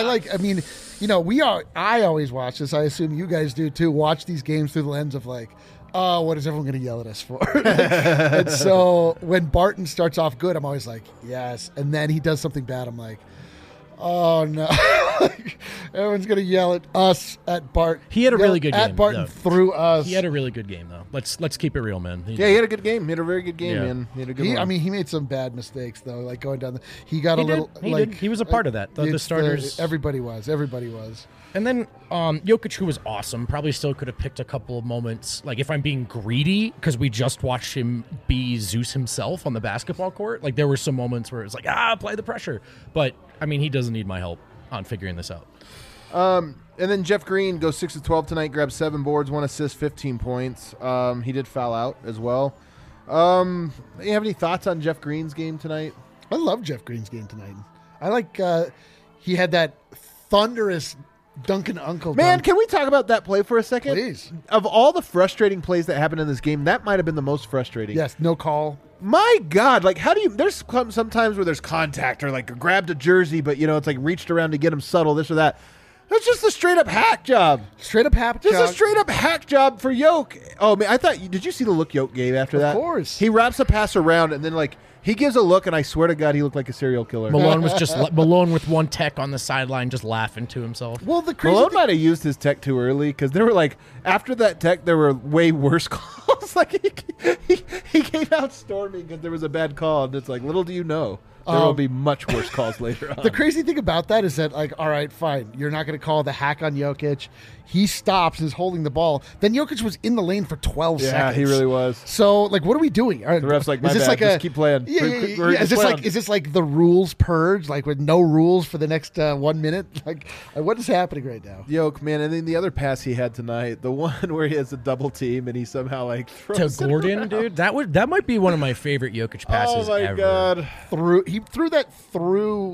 D: I always watch this. I assume you guys do too. Watch these games through the lens of what is everyone going to yell at us for? And so when Barton starts off good, I'm always like, yes, and then he does something bad. I'm like, oh no. Everyone's going to yell at us at Bart.
C: He had a really good game.
D: At Barton through us.
C: He had a really good game, though. Let's keep it real, man.
B: He had a good game. He had a very good game, man. He had a good one.
D: I mean, he made some bad mistakes, though, like going down he got a little...
C: He was a part of that. The starters...
D: Everybody was.
C: And then Jokic, who was awesome, probably still could have picked a couple of moments. Like, if I'm being greedy, because we just watched him be Zeus himself on the basketball court, there were some moments where it was like, apply the pressure. But, I mean, he doesn't need my help on figuring this out.
B: And then Jeff Green goes 6 of 12 tonight, grabs 7 boards, 1 assist, 15 points. He did foul out as well. You have any thoughts on Jeff Green's game tonight?
D: I love Jeff Green's game tonight. I like he had that thunderous Duncan Uncle.
B: Man, can we talk about that play for a second?
D: Please.
B: Of all the frustrating plays that happened in this game, that might have been the most frustrating.
D: Yes, no call.
B: My God, how do you... There's sometimes where there's contact or grabbed a jersey, but, it's reached around to get him subtle, this or that. That's just a straight-up hack job. Just a straight-up hack job for Yoke. Oh, man, did you see the look Yoke gave after that?
D: Of course.
B: He wraps a pass around, and then, he gives a look, and I swear to God, he looked like a serial killer.
C: Malone was Malone with one tech on the sideline, just laughing to himself.
D: Well, the crazy
B: Malone might have used his tech too early, because there were, after that tech, there were way worse calls. He came out storming because there was a bad call, and it's little do you know. There will be much worse calls later on.
D: The crazy thing about that is that, all right, fine. You're not going to call the hack on Jokic. He stops and is holding the ball. Then Jokic was in the lane for 12 seconds.
B: Yeah, he really was.
D: So, what are we doing?
B: The ref's my bad. Just keep playing.
D: Yeah. Is this the rules purge, with no rules for the next 1 minute? What is happening right now?
B: Yoke, man. And then the other pass he had tonight, the one where he has a double team and he somehow, throws
C: to Gordon, dude. That might be one of my favorite Jokic passes ever.
B: Oh, my God.
D: He threw that through,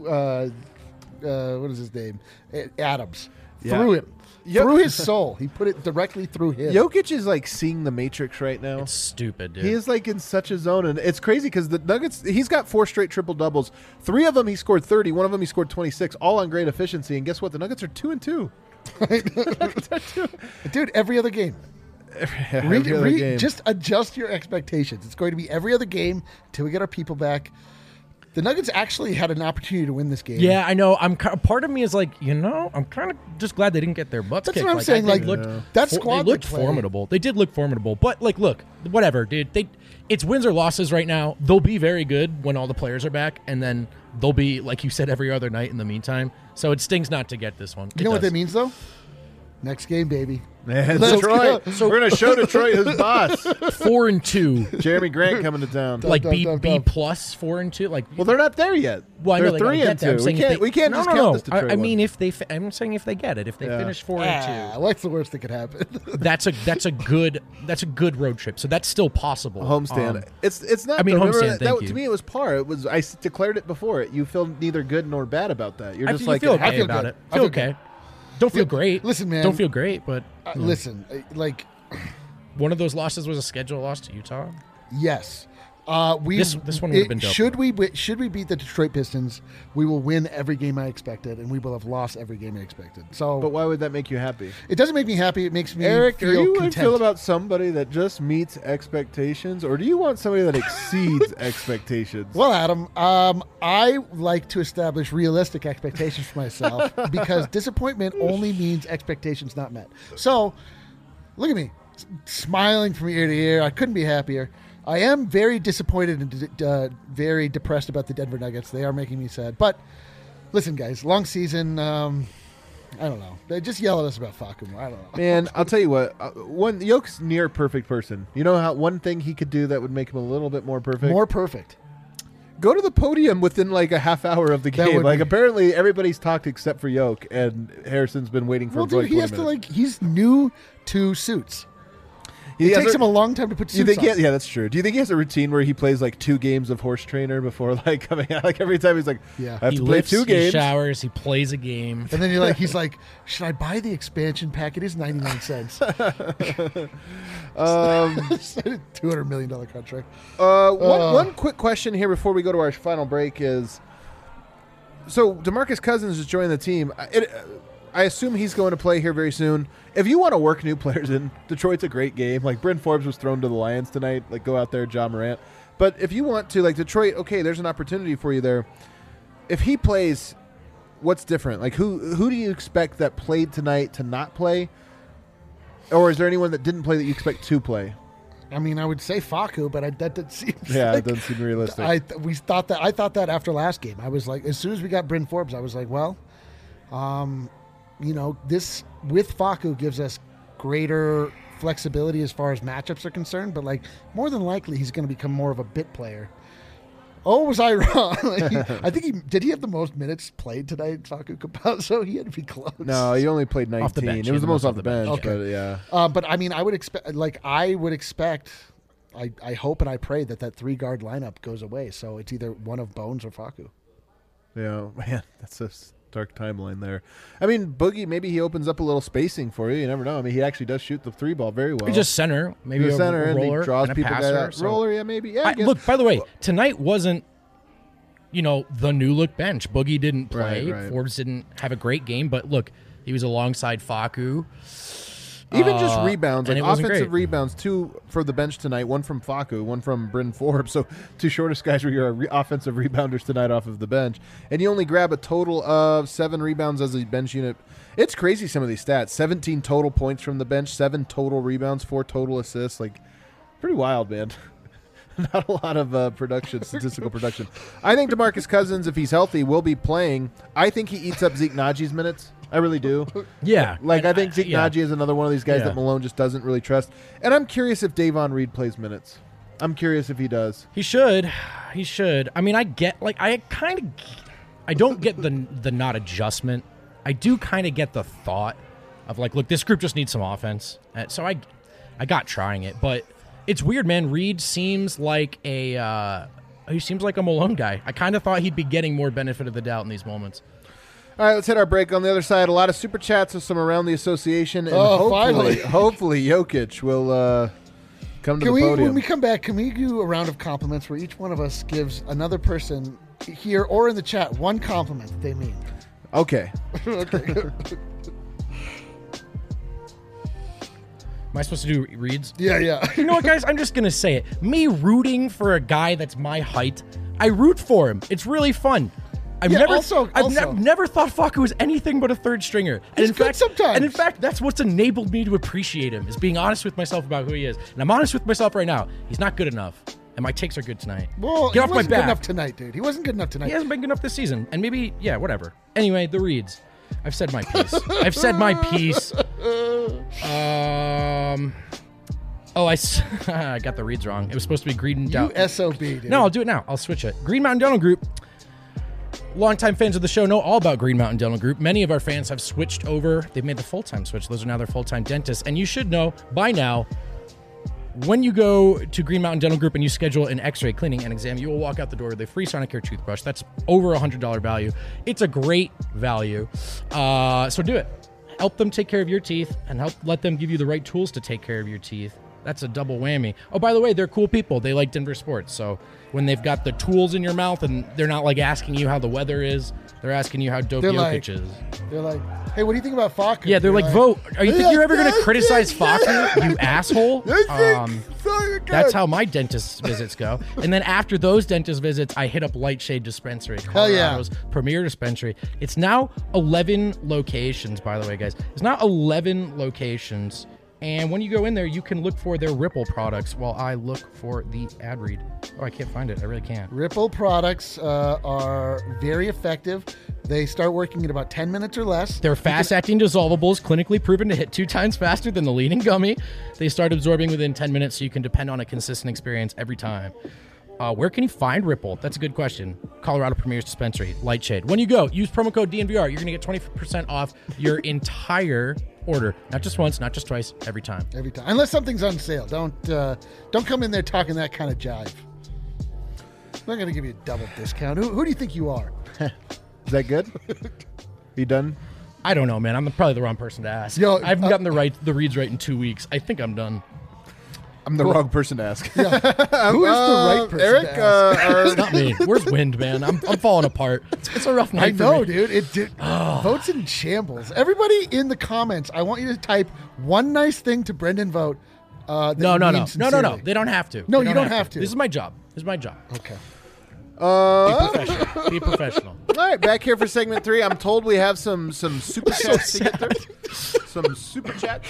D: what is his name? Adams.
B: Yeah.
D: Through him. Through his soul. He put it directly through him.
B: Jokic is seeing the Matrix right now.
C: It's stupid, dude.
B: He is in such a zone. And it's crazy because the Nuggets, he's got 4 straight triple-doubles. 3 of them he scored 30. 1 of them he scored 26, all on great efficiency. And guess what? The Nuggets are 2-2.
D: It Dude, every other game.
B: Every other game.
D: Just adjust your expectations. It's going to be every other game until we get our people back. The Nuggets actually had an opportunity to win this game.
C: Yeah, I know. Part of me is like, I'm kind of just glad they didn't get their butts
D: That's
C: kicked.
D: what I'm saying. Like, that
C: they
D: squad
C: looked
D: they played.
C: formidable. They did look formidable. But like, look, whatever, dude. It's wins or losses right now. They'll be very good when all the players are back, and then they'll be, like you said, every other night in the meantime. So it stings not to get this one.
D: You know what that means, though? Next game, baby.
B: Man,
D: Let's
B: Detroit.
D: go.
B: We're going to show Detroit who's boss.
C: 4-2.
B: Jeremy Grant coming to town.
C: Like
D: Dub,
C: B
D: dub,
C: B
D: dub.
C: plus 4-2. Like,
B: Well, they're not there yet.
C: well, I know
B: They're
C: they gotta
B: 3
C: get that. I'm
B: and 2.
C: saying if
B: We can't
C: no,
B: just
C: no,
B: count
C: no.
B: this Detroit
C: I mean,
B: one.
C: if they, I'm saying if they get it, if they finish 4-2.
D: What's the worst that could happen?
C: That's a good road trip. So that's still possible.
B: Homestand. It's not.
C: I mean,
B: though. Remember
C: homestand, thank
B: to
C: you.
B: me, it was par. It was. I declared it before. You feel neither good nor bad about that. You're
C: I
B: just
C: feel,
B: like
C: you feel
B: it
C: okay
D: feel
C: about
D: good.
C: it.
D: I
C: Feel
D: feel
C: okay. Don't feel great.
D: Listen, man.
C: Don't feel great, but
D: Listen, like,
C: one of those losses was a schedule loss to Utah.
D: yes.
C: This one would've been dope.
D: Should we beat the Detroit Pistons, we will win every game I expected, and we will have lost every game I expected. So,
B: But why would that make you happy?
D: it doesn't make me happy. It makes me
B: Eric,
D: feel
B: are you
D: content.
B: feel about somebody that just meets expectations, or do you want somebody that exceeds expectations?
D: Well, Adam, I like to establish realistic expectations for myself because disappointment only means expectations not met. So, look at me, smiling from ear to ear. I couldn't be happier. I am very disappointed and very depressed about the Denver Nuggets. They are making me sad. But listen, guys, long season. I don't know. They just yell at us about Facu more. I don't know.
B: Man, I'll tell you what. Yoke's near perfect person. You know how one thing he could do that would make him a little bit more perfect?
D: More perfect.
B: Go to the podium within like a half hour of the
D: That
B: game.
D: would
B: Like
D: be-
B: apparently everybody's talked except for Yoke, and Harrison's been waiting for
D: Well,
B: like
D: dude,
B: 20
D: he has to
B: minutes.
D: he's new to suits.
B: He
D: It
B: has
D: takes
B: a-
D: him a long time to put
B: You
D: suits
B: think?
D: on.
B: Yeah, that's true. Do you think he has a routine where he plays like 2 games of horse trainer before like coming out? Like every time he's like,
D: Yeah.
B: I have
C: He
B: to play
C: lifts,
B: 2
C: he
B: games.
C: showers, he plays a game.
D: And then he's like, should I buy the expansion pack? It is 99 cents. $200 million contract.
B: One quick question here before we go to our final break is, so DeMarcus Cousins is joining the team. I assume he's going to play here very soon. If you want to work new players in, Detroit's a great game. Like Bryn Forbes was thrown to the Lions tonight. Like go out there, John Morant. But if you want to, like Detroit, okay, there's an opportunity for you there. If he plays, what's different? Like who do you expect that played tonight to not play? Or is there anyone that didn't play that you expect to play?
D: I mean, I would say Facu, but that seems
B: Yeah,
D: like,
B: it doesn't seem realistic.
D: I thought that after last game. I was like, as soon as we got Bryn Forbes, I was like, well, this with Facu gives us greater flexibility as far as matchups are concerned, but like more than likely he's going to become more of a bit player. Oh, was I wrong? I think he have the most minutes played tonight, Facu Campazzo? He had to be close.
B: No, he only played 19.
C: Off the bench.
B: It was
C: Yeah,
B: the most off the bench,
D: Okay.
B: but yeah.
D: But I mean, I would expect. I hope and I pray that 3-guard lineup goes away. So it's either one of Bones or Facu.
B: Yeah, man, that's a dark timeline there. I mean, Boogie, maybe he opens up a little spacing for you. You never know. I mean, he actually does shoot the 3 ball very well.
C: He's just center, maybe
B: He's
C: a
B: center, and
C: roller,
B: he draws
C: and a
B: people
C: passer.
B: guys out.
C: So-
B: Roller, yeah, maybe. Yeah, I guess.
C: Look, by the way, tonight wasn't, the new look bench. Boogie didn't play.
B: Right.
C: Forbes didn't have a great game, but look, he was alongside Facu.
B: Even just rebounds,
C: and
B: like
C: it wasn't
B: offensive
C: great.
B: rebounds, 2 for the bench tonight, 1 from Facu, 1 from Bryn Forbes. So 2 shortest guys were your offensive rebounders tonight off of the bench. And you only grab a total of 7 rebounds as a bench unit. It's crazy, some of these stats. 17 total points from the bench, 7 total rebounds, 4 total assists. Like, pretty wild, man. Not a lot of statistical production. I think DeMarcus Cousins, if he's healthy, will be playing. I think he eats up Zeke Najee's minutes. I really do.
C: Yeah.
B: Like,
C: And
B: I think Zeke Naji is another one of these guys
C: Yeah.
B: that Malone just doesn't really trust. And I'm curious if Davon Reed plays minutes. I'm curious if he does.
C: He should. He should. I mean, I don't get the not adjustment. I do kind of get the thought of like, look, this group just needs some offense. So I got trying it, but it's weird, man. Reed seems like he seems like a Malone guy. I kind of thought he'd be getting more benefit of the doubt in these moments.
B: All right, let's hit our break. On the other side, a lot of super chats with some around the association, and
D: Finally.
B: hopefully Jokic will come to the podium.
D: When we come back, can we do a round of compliments where each one of us gives another person here or in the chat one compliment that they mean?
B: Okay.
D: Okay.
C: Am I supposed to do reads?
D: Yeah.
C: You know what, guys? I'm just going to say it. Me rooting for a guy that's my height, I root for him. It's really fun. I've never thought Facu was anything but a third stringer.
D: He's good sometimes.
C: And in fact, that's what's enabled me to appreciate him, is being honest with myself about who he is. And I'm honest with myself right now. He's not good enough. And my takes are good tonight.
D: Well,
C: Get off my back.
D: He wasn't good enough tonight, dude. He wasn't good enough tonight.
C: He hasn't been good enough this season. And maybe, yeah, whatever. Anyway, the reads. I've said my piece. I got the reads wrong. It was supposed to be Green Mountain.
D: You SOB, dude.
C: No, I'll do it now. I'll switch it. Green Mountain Dental Group. Longtime fans of the show know all about Green Mountain Dental Group. Many of our fans have switched over. They've made the full-time switch. Those are now their full-time dentists. And you should know by now, when you go to Green Mountain Dental Group and you schedule an x-ray, cleaning, and exam, you will walk out the door with a free Sonicare toothbrush. That's over $100 value. It's a great value. So do it. Help them take care of your teeth and let them give you the right tools to take care of your teeth. That's a double whammy. Oh, by the way, they're cool people. They like Denver sports. So when they've got the tools in your mouth and they're not like asking you how the weather is, they're asking you how dope Jokic is.
D: They're like, hey, what do you think about Facu?
C: Yeah, they're like, vote. Are you think you're ever going to criticize Facu, you asshole? That's how my dentist visits go. And then after those dentist visits, I hit up Lightshade Dispensary, Colorado's premier dispensary. It's now 11 locations, by the way, guys. It's now 11 locations. And when you go in there, you can look for their Ripple products while I look for the ad read. Oh, I can't find it. I really can't.
D: Ripple products are very effective. They start working in about 10 minutes or less.
C: They're fast-acting dissolvables, clinically proven to hit 2 times faster than the leading gummy. They start absorbing within 10 minutes, so you can depend on a consistent experience every time. Where can you find Ripple? That's a good question. Colorado Premier's Dispensary, Lightshade. When you go, use promo code DNVR. You're going to get 20% off your entire order. Not just once, not just twice, every time.
D: Every time. Unless something's on sale. Don't come in there talking that kind of jive. I'm not going to give you a double discount. Who do you think you are?
B: Is that good? You done?
C: I don't know, man. I'm probably the wrong person to ask.
D: Yo,
C: I haven't gotten the reads right in 2 weeks. I think I'm done.
B: I'm the wrong person to ask.
D: Yeah. Who is the right person
B: Eric,
D: to ask?
C: It's not me. Where's Wind, man? I'm falling apart. It's a rough night
D: I know,
C: for me.
D: dude. Vote's in shambles. Everybody in the comments, I want you to type one nice thing to Brendan Vote.
C: No. They don't have to.
D: No, you don't have to.
C: This is my job.
D: Okay.
C: Be professional.
B: All right, back here for segment 3. I'm told we have some super chats to get through. Some super chats.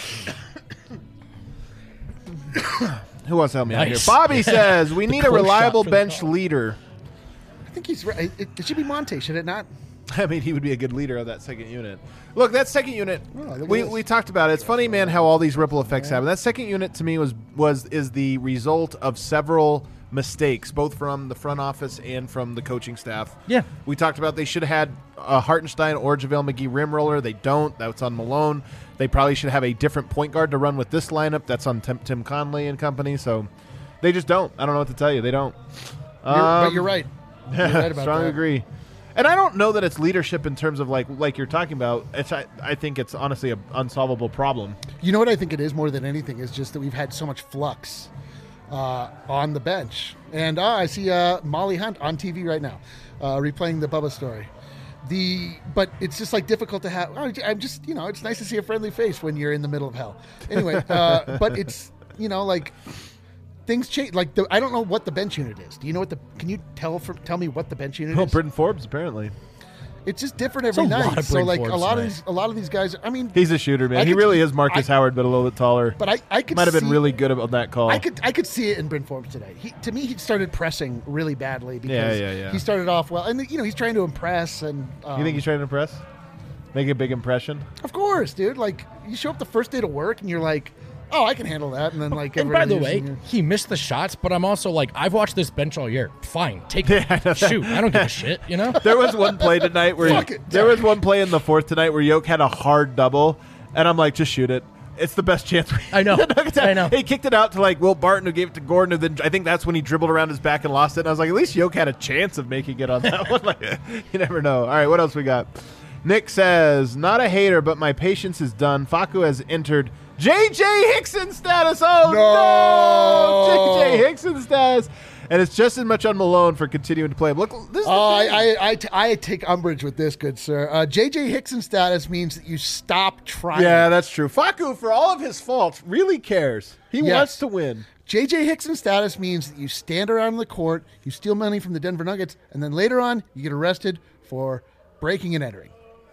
B: Who wants to help me out here? Bobby says we need a reliable bench leader.
D: I think he's right. It should be Monte, should it not?
B: I mean, he would be a good leader of that second unit. Look, that second unit, we talked about it. It's funny, man, how all these ripple effects happen. That second unit to me is the result of several mistakes, both from the front office and from the coaching staff.
C: Yeah.
B: We talked about they should have had a Hartenstein or JaVale McGee rim roller. They don't. That's on Malone. They probably should have a different point guard to run with this lineup. That's on Tim Conley and company. So they just don't. I don't know what to tell you. They don't.
D: But you're right. You're right about
B: Strongly
D: that.
B: agree. And I don't know that it's leadership in terms of like you're talking about. I think it's honestly an unsolvable problem.
D: You know what I think it is more than anything is just that we've had so much flux on the bench. And I see Molly Hunt on TV right now replaying the Bubba story. But it's just like difficult to have. I'm just, it's nice to see a friendly face when you're in the middle of hell. Anyway, but it's, like things change. Like I don't know what the bench unit is. Do you know can you tell me what the bench unit is?
B: Britton Forbes, apparently.
D: It's just different every night. So like a lot of these guys. I mean,
B: he's a shooter, man. He really is Marcus Howard, but a little bit taller.
D: But I could
B: might have been really good on that call.
D: I could see it in Bryn Forbes today. To me, he started pressing really badly because
B: yeah.
D: he started off well, and he's trying to impress. And
B: you think he's trying to impress? Make a big impression?
D: Of course, dude. Like you show up the first day to work, and you're like, oh, I can handle that. And then like,
C: and by the way, he missed the shots, but I'm also like, I've watched this bench all year. Fine, take it. Shoot, I don't give a shit.
B: There was one play tonight where there was one play in the fourth tonight where Yoke had a hard double, and I'm like, just shoot it. It's the best chance.
C: I know.
B: He kicked it out to like Will Barton, who gave it to Gordon, and then I think that's when he dribbled around his back and lost it. And I was like, at least Yoke had a chance of making it on that one. Like, you never know. All right, what else we got? Nick says, not a hater, but my patience is done. Facu has entered J.J. Hickson status. Oh, no! J.J. Hickson status. and it's just as much on Malone for continuing to play him. Look, this is
D: I take umbrage with this, good sir. J.J. Hickson status means that you stop trying.
B: Yeah, that's true. Facu, for all of his faults, really cares. He
D: Yes.
B: wants to win.
D: J.J. Hickson status means that you stand around the court, you steal money from the Denver Nuggets, and then later on you get arrested for breaking and entering.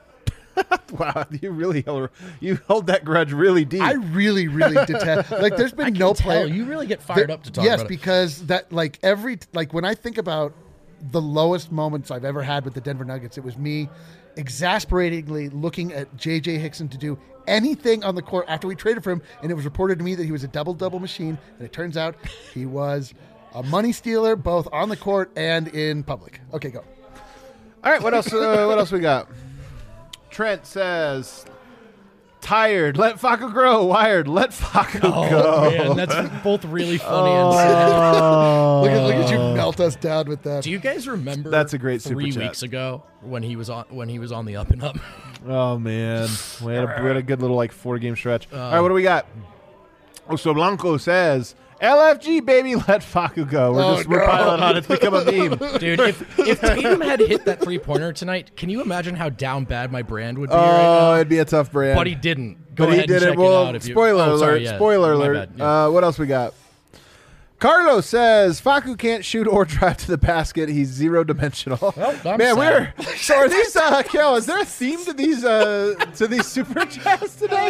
B: Wow, you hold that grudge really deep.
D: I really, really detest. Like, there's been no player.
C: You really get fired up to talk
D: Yes,
C: about it.
D: because that when I think about the lowest moments I've ever had with the Denver Nuggets, it was me exasperatingly looking at J.J. Hickson to do anything on the court after we traded for him, and it was reported to me that he was a double-double machine, and it turns out he was a money stealer both on the court and in public. Okay, go.
B: All right, what else? What else we got? Trent says, "Tired, let Facu grow. Wired, let Facu go."
C: Man, that's both really funny and sad.
D: Look at you melt us down with that.
C: Do you guys remember?
B: That's a great super
C: 3
B: chat.
C: weeks ago when he was on the up and up.
B: Oh man, we had a good little 4-game stretch. All right, what do we got? So Blanco says, "LFG baby, let Facu go." We're piling on. It's become a meme.
C: Dude, if Tatum had hit that 3-pointer tonight, can you imagine how down bad my brand would be right
B: Oh,
C: now?
B: it'd be a tough brand.
C: But he didn't. Go
B: But
C: ahead
B: he
C: and
B: did
C: check
B: it. Well,
C: it out. If you,
B: spoiler alert.
C: sorry, yeah,
B: Spoiler
C: my
B: alert.
C: bad, yeah.
B: What else we got? Carlos says Facu can't shoot or drive to the basket. He's 0-dimensional.
C: I'm
B: Man,
C: sad.
B: so are these? Kel, is there a theme to these super chats today?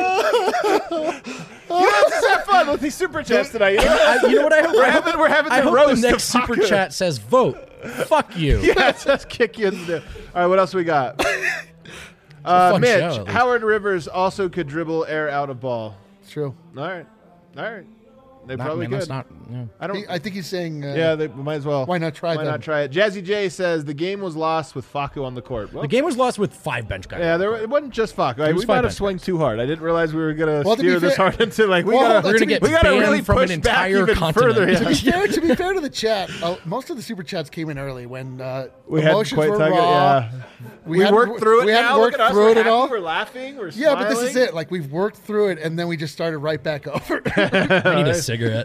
B: Let's just have fun with these super chats tonight.
C: You know what I hope?
B: We're having
C: I
B: the
C: hope
B: roast
C: the next
B: of
C: super
B: Facu.
C: chat says vote. Fuck you.
B: Yeah, just kick you in the. All right, what else we got?
C: fun
B: Mitch,
C: show, at least.
B: Howard Rivers also could dribble air out of ball.
D: It's true.
B: All right. They
C: Not-
B: probably
C: man, that's
B: could.
C: not. Yeah.
B: I don't.
D: I think he's saying.
B: Yeah, they might as well.
D: Why not try
B: Why
D: them?
B: not try it? Jazzy J says the game was lost with Facu on the court. Well,
C: The game was lost with 5 bench guys.
B: yeah, it wasn't just Facu.
C: was
B: We
C: five
B: might have
C: bench
B: swung too hard. I didn't realize we were gonna
D: Well, to
B: steer
D: be
B: this
D: fair-
B: hard into we
D: Well,
B: gotta
C: We're gonna get
B: we gotta
C: banned
B: really
C: from
B: push
C: an
B: back
C: entire
B: even
C: continent.
B: further.
D: To be
B: Yeah.
D: fair, to be fair to the chat, most of the super chats came in early when
B: We hadn't
D: emotions
B: quite
D: were
B: taken it.
D: raw.
B: Yeah. We
D: hadn't-
B: worked through it.
D: We hadn't
B: now.
D: worked
B: Look at us.
D: through
B: We're
D: it at
B: happy,
D: all.
B: We're laughing. We're
D: Yeah, but this is
B: smiling.
D: it. Like, we've worked through it, and then we just started right back over.
C: I need a cigarette.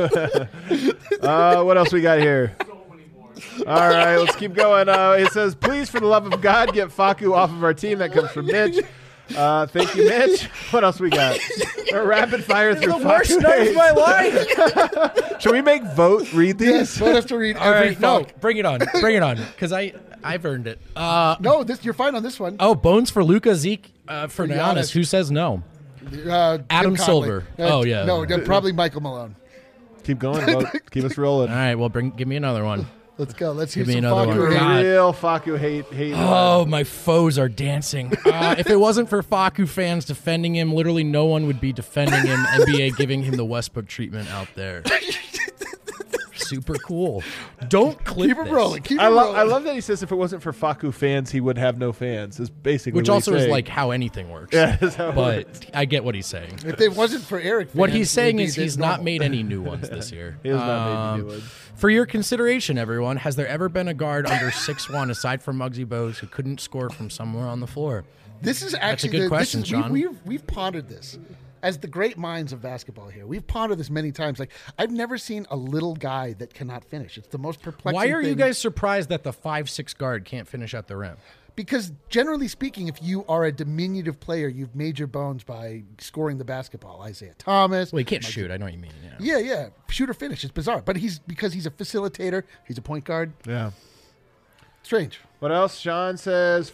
B: What else we got here? All right, let's keep going. It says, "Please, for the love of God, get Facu off of our team." That comes from Mitch. Thank you, Mitch. What else we got? A rapid fire through
C: the worst
B: Facu.
C: night of my life.
B: Should we make vote read these?
D: Yes, we'll have to read
C: All
D: every
C: right, no,
D: fuck.
C: bring it on, because I've earned it.
D: No, you're fine on this one.
C: Oh, bones for Luka, Zeke, for
D: Giannis.
C: Giannis. Who says no?
D: Jim
C: Adam
D: Conley.
C: Silver. Oh, yeah.
D: No, probably Michael Malone.
B: Keep going, vote. Keep us rolling.
C: All right, well, give me another one.
D: Let's go. Let's hear
C: Give me
D: some
C: another one.
D: Facu hate.
C: God.
B: Real Facu hate.
C: Oh, my foes are dancing. If it wasn't for Facu fans defending him, literally no one would be defending him. NBA giving him the Westbrook treatment out there. Super cool. Don't clip
D: Keep it
C: this.
D: rolling. Keep it
B: I
D: rolling.
B: love that he says if it wasn't for Facu fans, he would have no fans. Is basically
C: Which
B: what
C: also
B: he's
C: is
B: saying.
C: like how anything works.
B: Yeah, that's how it works.
C: But I get what he's saying.
D: If it wasn't for Eric,
C: What
D: fans,
C: he's
D: it
C: saying
D: would
C: is
D: be
C: he's
D: normal.
C: not made any new ones this year.
B: He has not made any new ones.
C: For your consideration, everyone, has there ever been a guard under 6'1", aside from Muggsy Bogues, who couldn't score from somewhere on the floor?
D: This is actually
C: good question, Sean.
D: We've pondered this as the great minds of basketball here. We've pondered this many times. Like, I've never seen a little guy that cannot finish. It's the most perplexing.
C: Why are you
D: thing.
C: guys surprised that the 5'6" guard can't finish at the rim?
D: Because generally speaking, if you are a diminutive player, you've made your bones by scoring the basketball. Isaiah Thomas.
C: Well, he can't shoot. I know what you mean. Yeah.
D: Yeah. Shoot or finish. It's bizarre. But because he's a facilitator, he's a point guard.
B: Yeah.
D: Strange.
B: What else? Sean says.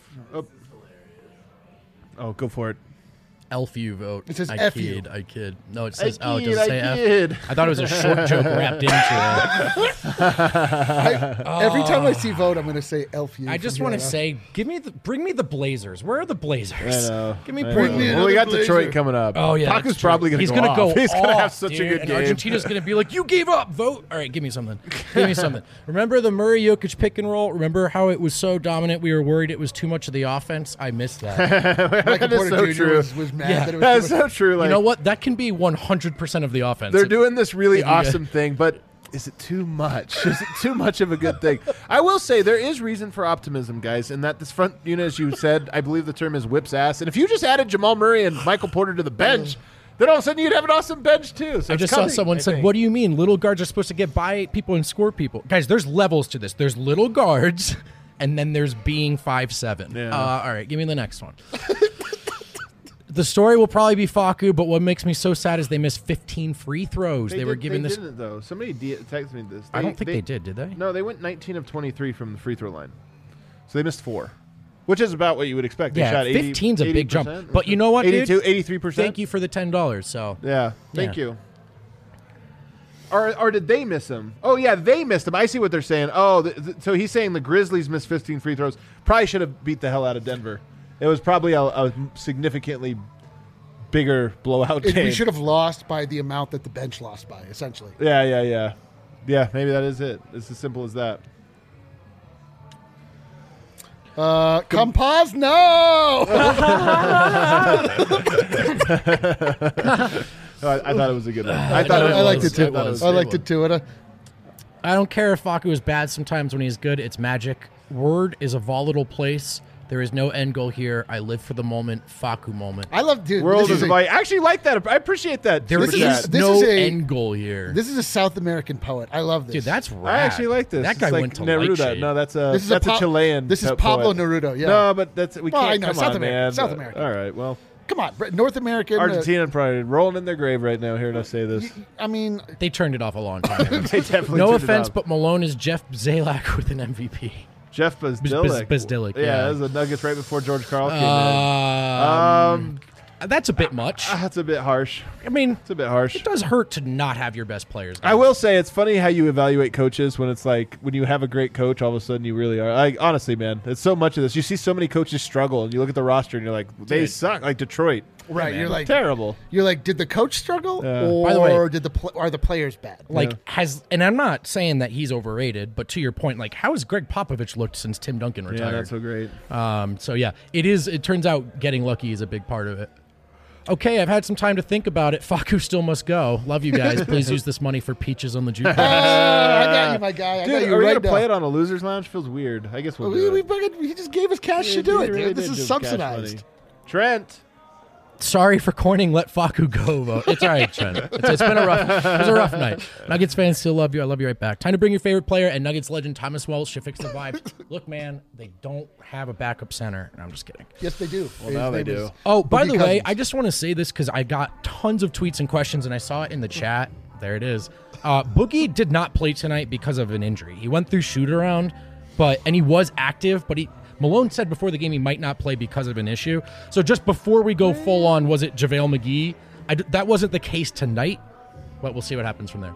B: Oh, go for it.
C: LFU vote.
D: It says
C: I
D: F
C: kid.
D: you.
C: I kid. No, it says.
B: I
C: Oh, it
B: kid,
C: doesn't say
B: I
C: F.
B: kid.
C: I thought it was a short joke wrapped into it.
D: Every time I see vote, I'm going to say LFU.
C: I just want to say, bring me the Blazers. Where are the Blazers?
B: I know.
C: Give me
B: I
C: bring
B: know.
C: me.
B: Well, we got
D: Blazer.
B: Detroit coming up.
C: Oh yeah,
B: Facu's
C: that's true.
B: probably going to
C: He's
B: go
C: gonna
B: off.
C: go.
B: He's going to have
C: off,
B: such
C: dude,
B: a good
C: and
B: game.
C: Argentina's going to be like, "You gave up. Vote. All right, give me something. Give me something." Remember the Murray Jokic pick and roll? Remember how it was so dominant? We were worried it was too much of the offense. I missed that.
D: Michael
B: That is
D: Porter
B: so
D: Jr.
B: true.
D: Was mad
C: Yeah.
D: that it was
B: That's
D: too much.
B: so true. Like,
C: You know what? That can be 100% of the offense.
B: they're doing this really
C: If you
B: awesome thing, but is it too much? Is it too much of a good thing? I will say there is reason for optimism, guys, and that this front unit, as you said, I believe the term is whips ass. And if you just added Jamal Murray and Michael Porter to the bench, then all of a sudden you'd have an awesome bench too. So
C: I
B: it's
C: just saw
B: coming,
C: someone
B: I
C: said,
B: think.
C: "What do you mean little guards are supposed to get by people and score people?" Guys, there's levels to this. There's little guards, and then there's being 5'7".
B: Yeah.
C: All right, give me the next one. The story will probably be Facu, but what makes me so sad is they missed 15 free throws. They were given this.
B: Didn't though. Somebody texted me this.
C: I don't think they did they?
B: No, they went 19 of 23 from the free throw line, so they missed 4, which is about what you would expect. They
C: Yeah,
B: shot 80,
C: 15's a big
B: 80%.
C: jump. But you know what,
B: 82,
C: dude?
B: 83%.
C: Thank you for the $10. So
B: Yeah, thank
C: Yeah.
B: you. Or did they miss him? Oh yeah, they missed him. I see what they're saying. Oh, so he's saying the Grizzlies missed 15 free throws. Probably should have beat the hell out of Denver. It was probably a significantly bigger blowout game.
D: We should have lost by the amount that the bench lost by, essentially.
B: Yeah. Maybe that is it. It's as simple as that.
D: Come pause, no!
B: I thought it was a good one.
C: I
D: liked it too.
C: It was.
D: I liked it too.
C: I don't care if Facu is bad sometimes when he's good. It's magic. Word is a volatile place. There is no end goal here. I live for the moment. Facu moment.
D: I love, dude.
B: World
D: this
B: is
D: is
B: like. I actually like that. I appreciate that.
C: There
B: super
C: is
B: chat.
D: this
C: no
D: is a-
C: end goal here.
D: This is a South American poet. I love this.
C: Dude, that's rad.
B: I actually like this.
C: That
B: It's
C: guy
B: like
C: went to
B: Neruda.
C: Light
B: No, that's a
D: This is
B: that's a
D: Pa-
B: Chilean.
D: This is
B: poet.
D: Pablo Neruda. Yeah.
B: No, but that's we
D: Well,
B: can't.
D: I know,
B: Come
D: South
B: on,
D: American,
B: man.
D: South American.
B: All right. Well,
D: Come on, North American.
B: Argentina probably rolling in their grave right now. Hearing us say this.
D: I mean,
C: They turned it off a long time ago.
B: They definitely.
C: No
B: turned it
C: offense,
B: off.
C: but Malone is Jeff Zalak with an MVP.
B: Jeff Bazdilik.
C: Bazdilik,
B: Yeah,
C: yeah.
B: that was the Nuggets right before George Karl came in.
C: That's a bit much.
B: That's a bit harsh.
C: I mean,
B: It's a bit harsh.
C: it does hurt to not have your best players.
B: I will say it's funny how you evaluate coaches when it's like when you have a great coach, all of a sudden you really are. Like honestly, man, it's so much of this. You see so many coaches struggle, and you look at the roster, and you're like, they suck. Like Detroit,
D: right? You're like,
B: terrible.
D: did the coach struggle,
B: Yeah.
D: or
C: By the way-
D: did are the players bad?
C: Like and I'm not saying that he's overrated, but to your point, like how has Greg Popovich looked since Tim Duncan
B: Yeah,
C: retired?
B: not so great.
C: So yeah, it is. It turns out getting lucky is a big part of it. Okay, I've had some time to think about it. Facu still must go. Love you guys. Please use this money for peaches on the jukebox.
D: I got you, my guy. I
B: Dude,
D: got you
B: are we
D: right
B: gonna
D: now.
B: play it on a losers lounge? Feels weird. I guess we'll do it.
D: He just gave us cash
B: Yeah,
D: to do
B: he
D: it,
B: really
D: dude. This
B: did
D: is
B: give us cash
D: subsidized.
B: money. Trent.
C: Sorry for coining "Let Facu Go" vote. It's all right, Trent. It's been a rough night. Nuggets fans still love you. I love you right back. Time to bring your favorite player and Nuggets legend Thomas Wells should fix the vibe. Look, man, they don't have a backup center. No, I'm just kidding.
D: Yes, they do.
B: Well, now they do.
C: Oh, by
D: Boogie
C: the way,
D: Cousins.
C: I just want to say this because I got tons of tweets and questions, and I saw it in the chat. There it is. Boogie did not play tonight because of an injury. He went through shoot around, and he was active, but Malone said before the game he might not play because of an issue. So just before we go full on, was it JaVale McGee? That wasn't the case tonight, but we'll see what happens from there.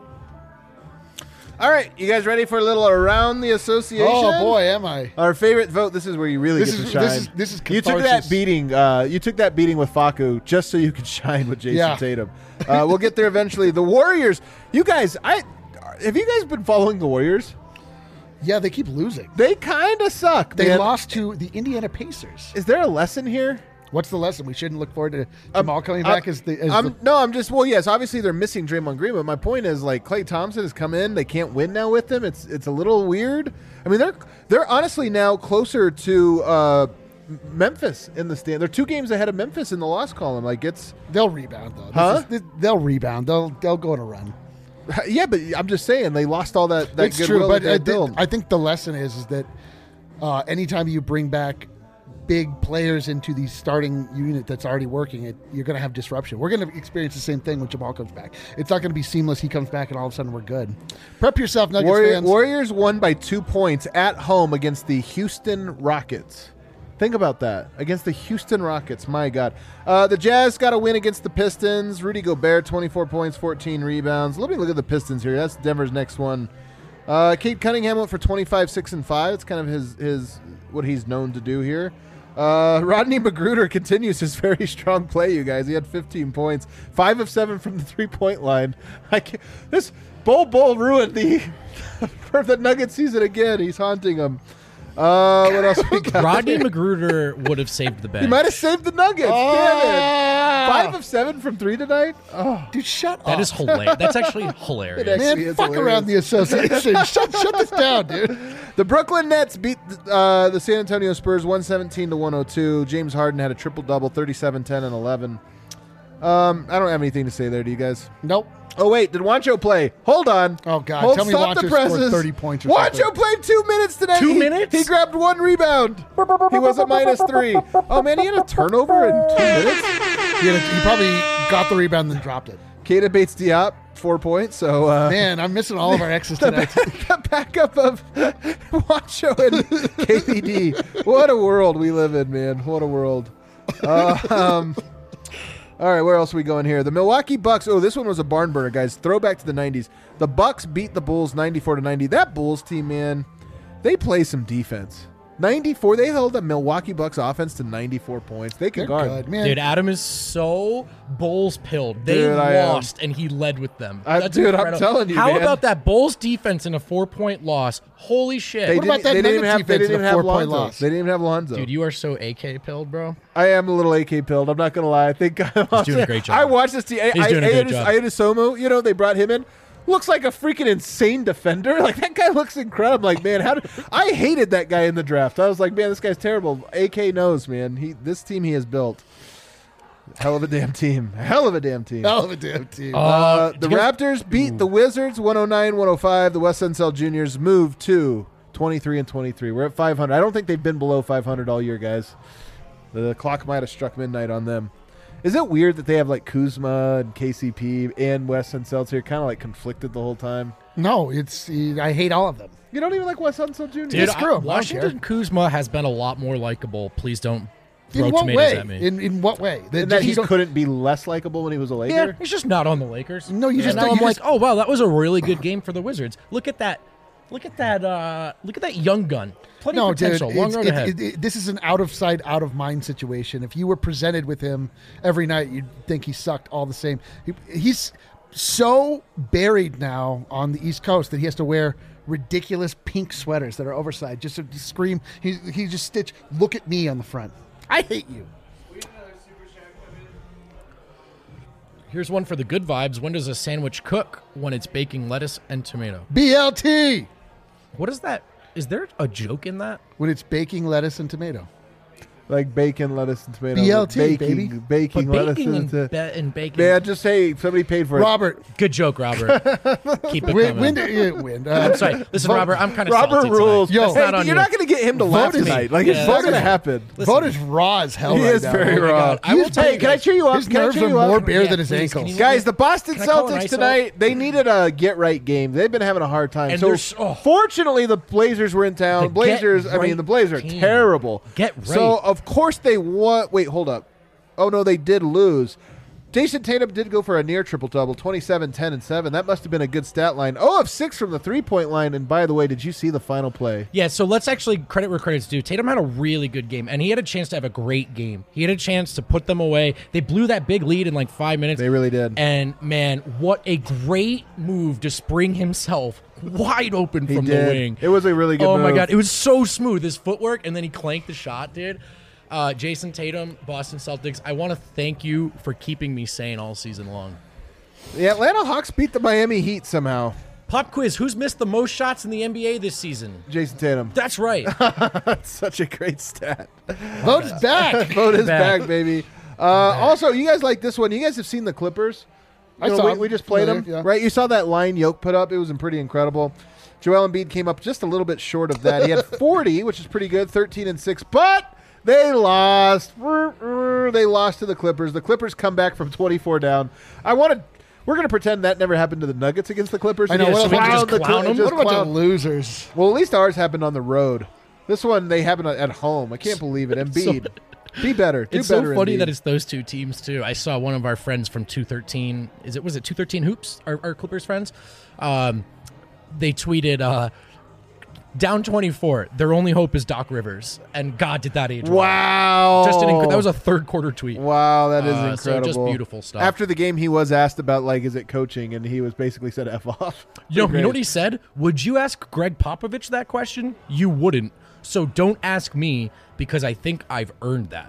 B: All right, you guys ready for a little around the association?
D: Oh boy, am I!
B: Our favorite vote. This is where you really get to shine.
D: This is
B: you took that
D: catharsis.
B: beating. You took that beating with Facu just so you could shine with Jason
D: Yeah.
B: Tatum. We'll get there eventually. The Warriors. You guys, have you guys been following the Warriors?
D: Yeah, they keep losing.
B: They kind of suck.
D: They
B: man.
D: lost to the Indiana Pacers.
B: Is there a lesson here?
D: What's the lesson? We shouldn't look forward to Jamal coming back as the.
B: I'm just. Well, yes. Obviously, they're missing Draymond Green, but my point is, like, Klay Thompson has come in. They can't win now with him. It's a little weird. I mean, they're honestly now closer to Memphis in the stand. They're 2 games ahead of Memphis in the loss column. Like
D: They'll rebound though.
B: Huh?
D: They'll rebound. They'll go on a run.
B: Yeah, but I'm just saying they lost all that
D: It's
B: goodwill
D: true, but
B: that they built.
D: I think the lesson is that anytime you bring back big players into the starting unit that's already working, you're going to have disruption. We're going to experience the same thing when Jamal comes back. It's not going to be seamless. He comes back and all of a sudden we're good. Prep yourself, Nuggets fans.
B: Warriors won by 2 points at home against the Houston Rockets. Think about that. Against the Houston Rockets. My God. The Jazz got a win against the Pistons. Rudy Gobert, 24 points, 14 rebounds. Let me look at the Pistons here. That's Denver's next one. Cade Cunningham went for 25, 6, and 5. It's kind of his what he's known to do here. Rodney McGruder continues his very strong play, you guys. He had 15 points, 5 of 7 from the 3-point line. This Bol ruined for the Nuggets season again. He's haunting them. What else we got?
C: Rodney McGruder would have saved the bench.
B: He might have saved the Nuggets. Damn it. 5 of 7 from 3 tonight. Oh,
D: Dude, shut up.
C: That is hilarious. That's actually hilarious.
B: actually
D: Man,
B: is
D: fuck
B: hilarious.
D: around the association. shut this down, dude.
B: The Brooklyn Nets beat the San Antonio Spurs 117 to 102. James Harden had a triple-double, 37, 10, and 11. I don't have anything to say there. Do you guys?
D: Nope.
B: Oh, wait. Did Juancho play? Hold on.
D: Oh, God. Tell me
B: Stop the
D: Juancho
B: presses.
D: scored 30 points or
B: Juancho
D: something.
B: played 2 minutes today.
C: 2 minutes?
B: He grabbed 1 rebound. He was a -3. Oh, man. He had a turnover in 2 minutes.
D: He probably got the rebound and then dropped it.
B: Keita Bates Diop, 4 points. So,
D: Man, I'm missing all of our X's tonight.
B: the backup of Juancho and KPD. What a world we live in, man. What a world. All right, where else are we going here? The Milwaukee Bucks. Oh, this one was a barn burner, guys. Throwback to the 90s. The Bucks beat the Bulls 94-90. That Bulls team, man, they play some defense. 94. They held the Milwaukee Bucks offense to 94 points. They can
D: They're
B: guard.
D: good, man.
C: Dude, Adam is so Bulls pilled. They
B: Dude, I am.
C: lost, and he led with them.
B: Dude, I'm
C: incredible.
B: telling you,
C: How
B: man.
C: about that Bulls defense in a 4-point loss? Holy shit.
B: They
D: What about
B: didn't-
D: that
B: they didn't
D: Nuggets
B: even have, they
D: defense
B: didn't
D: in a
B: even have
D: 4-point
B: Lonzo.
D: loss?
B: They didn't even have Lonzo.
C: Dude, you are so AK pilled, bro.
B: I am a little AK pilled. I'm not going to lie. I think
C: He's doing a great job.
B: I watched this team.
C: He's doing a great job.
B: Ayudisomu, you know, they brought him in. Looks like a freaking insane defender. Like, that guy looks incredible. I'm like, man, I hated that guy in the draft. I was like, man, this guy's terrible. AK knows, man. This team he has built. Hell of a damn team. Hell of a damn team.
D: Hell of a damn team.
B: The Raptors beat the Wizards 109-105. The West End Cell Juniors moved to 23-23. We're at 500. I don't think they've been below 500 all year, guys. The clock might have struck midnight on them. Is it weird that they have like Kuzma and KCP and Wes Unseld here kind of like conflicted the whole time?
D: No, I hate all of them.
B: You don't even like Wes Unseld Jr.?
C: Dude,
D: screw him. I don't
C: Washington Kuzma has been a lot more likable. Please don't throw
D: In what
C: tomatoes
D: way?
C: at me.
D: In what way?
B: and that he
D: don't-
B: couldn't be less likable when he was a Laker?
C: Yeah, he's just not on the Lakers.
D: No, you
C: And
D: just
C: now
D: don't-
C: I'm
D: you
C: like,
D: just-
C: oh wow, that was a really good game for the Wizards. Look at that young gun. Plenty
D: No,
C: of
D: dude,
C: potential. Long road ahead.
D: this is an out of sight, out of mind situation. If you were presented with him every night, you'd think he sucked all the same. He's so buried now on the East Coast that he has to wear ridiculous pink sweaters that are oversized just to scream. He just stitch, look at me on the front. I hate you.
C: Here's one for the good vibes. When does a sandwich cook? When it's baking lettuce and tomato.
D: BLT
C: What is that? Is there a joke in that?
D: when it's baking lettuce and tomato.
B: Like bacon, lettuce, and tomato.
D: BLT, baby.
B: Baking, lettuce,
C: baking
B: and
C: and baking.
B: Man, just say somebody paid for it.
D: Robert,
C: Good joke, Robert. Keep it
D: win.
C: coming. I'm sorry. Listen, Robert, I'm kind of
B: Robert
C: salty
B: rules.
C: tonight.
D: Yo,
C: That's
B: Hey,
C: not on
B: you're
C: you.
B: not going to get him to laugh
D: Vote is-
B: tonight. Like,
C: Yeah,
B: it's not going to
C: that's-
B: happen.
D: Vote is raw as hell
B: He
D: right
B: is
D: now.
B: very
C: Oh my
B: raw.
C: God. I will
D: He's-
C: tell
B: Hey,
C: you
B: can I
C: guys.
B: cheer you up?
D: His
B: Can I
D: nerves
B: cheer
D: are
B: you up?
D: more bare
C: Yeah,
D: than his
C: please,
D: ankles.
C: can you-
B: Guys, the Boston
C: Can I call an
B: Celtics
C: ISO?
B: tonight, they needed a get-right game. They've been having a hard time.
C: And
B: So,
C: they're so-
B: fortunately, the Blazers were in town.
C: The
B: Blazers, I mean,
C: get-right
B: the Blazers are
C: team.
B: terrible.
C: Get right.
B: So, of course, they won. Wait, hold up. Oh, no, they did lose. Jason Tatum did go for a near triple-double, 27, 10, and 7. That must have been a good stat line. 0 of 6 from the three-point line. And by the way, did you see the final play?
C: Yeah, so let's actually credit where credit's due. Tatum had a really good game, and he had a chance to have a great game. He had a chance to put them away. They blew that big lead in like 5 minutes.
B: They really did.
C: And man, what a great move to spring himself wide open
B: He
C: from
B: did.
C: the wing.
B: It was a really good
C: Oh
B: move.
C: my god, it was so smooth. His footwork, and then he clanked the shot, dude. Jason Tatum, Boston Celtics. I want to thank you for keeping me sane all season long.
B: The Atlanta Hawks beat the Miami Heat somehow.
C: Pop quiz: who's missed the most shots in the NBA this season?
B: Jason Tatum.
C: That's right.
B: That's such a great stat.
D: Vote is back.
B: Vote is
C: Back.
B: back, baby. Also, you guys like this one. You guys have seen the Clippers.
D: I saw them.
B: we just played them,
D: Yeah.
B: right? You saw that line Yoke put up. It was pretty incredible. Joel Embiid came up just a little bit short of that. He had 40, which is pretty good, 13 and 6, but they lost. They lost to the Clippers. The Clippers come back from 24 down. We're going to pretend that never happened to the Nuggets against the Clippers.
D: I know,
B: And
D: what
B: just
D: a- we can
C: just
B: the
C: clown them?
B: just
D: What a bunch
B: clown-
D: of losers.
B: Well, at least ours happened on the road. This one, they happened at home. I can't believe it. Embiid. Be better. Do
C: It's
B: better,
C: so funny
B: Embiid.
C: that it's those two teams too. I saw one of our friends from 213. Was it 213 Hoops? Our Clippers friends. They tweeted down 24. Their only hope is Doc Rivers, and God did that age well.
B: Wow.
C: That was a third quarter tweet.
B: Wow, that is
C: So
B: incredible.
C: just beautiful stuff.
B: After the game, he was asked about, like, is it coaching? And he was basically said F off.
C: You know what he said? Would you ask Greg Popovich that question? You wouldn't. So don't ask me because I think I've earned that.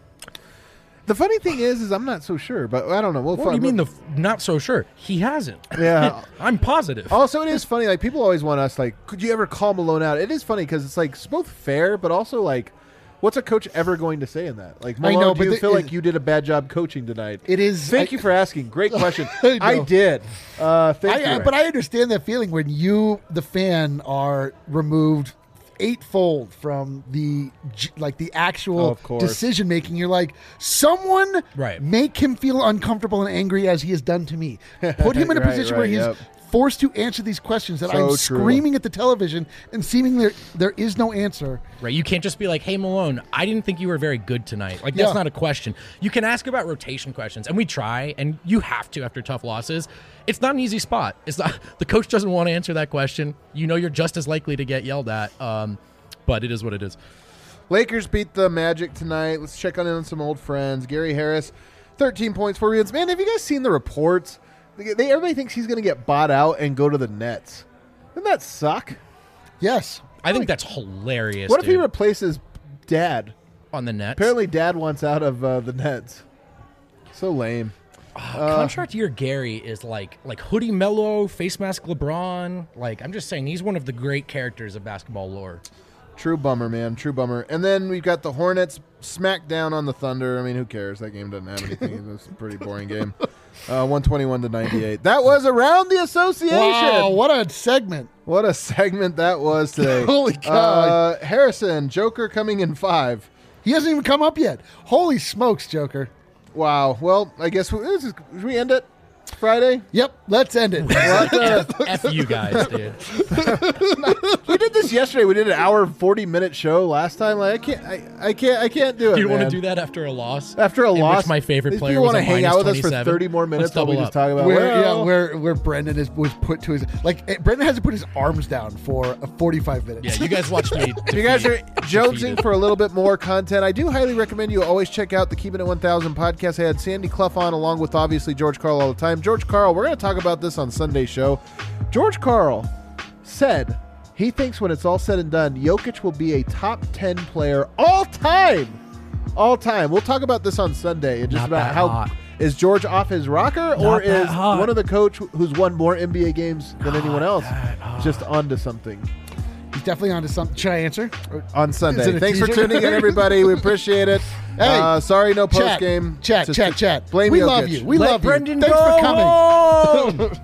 B: The funny thing is I'm not so sure, but I don't know. We'll
C: What do you mean not so sure? He hasn't.
B: Yeah.
C: I'm positive.
B: Also, it is funny. Like, people always want us, like, could you ever call Malone out? It is funny because it's, like, it's both fair, but also, like, What's a coach ever going to say in that? Like,
D: I
B: Malone,
D: know,
B: do
D: but
B: you feel like you did a bad job coaching tonight?
D: It is.
B: Thank you for asking. Great question.
D: I
B: I
D: know.
B: did. Thank you.
D: But I understand that feeling when you, the fan, are removed eightfold from the actual
B: Of course.
D: decision making. You're like, someone
C: Right.
D: make him feel uncomfortable and angry as he has done to me. Put him in a
B: Right,
D: position where
B: right,
D: he's
B: yep.
D: forced to answer these questions that
B: So
D: I'm
B: true.
D: screaming at the television and seemingly there is no answer.
C: Right, you can't just be like, "Hey Malone, I didn't think you were very good tonight." Like that's
D: Yeah.
C: not a question. You can ask about rotation questions, and we try, and you have to after tough losses. It's not an easy spot. It's not. The coach doesn't want to answer that question. You know, you're just as likely to get yelled at. But it is what it is.
B: Lakers beat the Magic tonight. Let's check on some old friends. Gary Harris, 13 points, 4 rebounds. Man, have you guys seen the reports? Everybody thinks he's going to get bought out and go to the Nets. Doesn't that suck?
D: Yes.
C: I think that's hilarious.
B: What if he
C: dude,
B: replaces Dad?
C: on the Nets?
B: Apparently, Dad wants out of the Nets. So lame.
C: Contract year Gary is like Hoodie Mello, face mask LeBron. Like I'm just saying, he's one of the great characters of basketball lore.
B: True bummer, man. True bummer. And then we've got the Hornets smack down on the Thunder. I mean, who cares? That game doesn't have anything. It was a pretty boring game. 121-98. That was Around the Association.
D: Wow, what a segment.
B: What a segment that was today.
D: Holy God.
B: Harrison, Joker coming in 5.
D: He hasn't even come up yet. Holy smokes, Joker.
B: Wow. Well, I guess should we end it Friday?
D: Yep, let's end it.
C: F you guys, dude.
B: We did this yesterday. We did an hour 40-minute show last time. Like I can't do it.
C: You want
B: man.
C: to do that after a loss?
B: After a
C: in
B: loss?
C: Which my favorite
B: These
C: player
B: people
C: was
B: want to
C: a
B: hang out with us for
C: 27?
B: 30 more minutes while we
C: double
B: just
C: up.
B: talk about
D: Where Brendan was put to his Brendan has to put his arms down for 45 minutes.
C: Yeah, you guys watch me.
B: If you guys are jonesing
C: defeated.
B: for a little bit more content, I do highly recommend you always check out the Keeping It 1000 podcast. I had Sandy Clough on along with obviously George Karl all the time. George Karl, we're going to talk about this on Sunday's show. George Karl said he thinks when it's all said and done, Jokic will be a top 10 player all time. All time. We'll talk about this on Sunday and just
C: Not
B: about
C: that
B: how
C: hot.
B: is George off his rocker or
C: Not that
B: is
C: hot.
B: one of the coach who's won more NBA games than anyone else just onto something.
D: He's definitely onto something. Should I answer?
B: On
D: Is
B: Sunday.
D: it a
B: Thanks for
D: teaser?
B: tuning in, everybody. We appreciate it.
D: Hey,
B: sorry, no post
D: Chat,
B: game.
D: chat.
B: Blame
D: We
B: Jokic.
D: love you. We
C: Let
D: love
C: Brendan
D: you. Thanks
C: go
D: for coming.
C: home!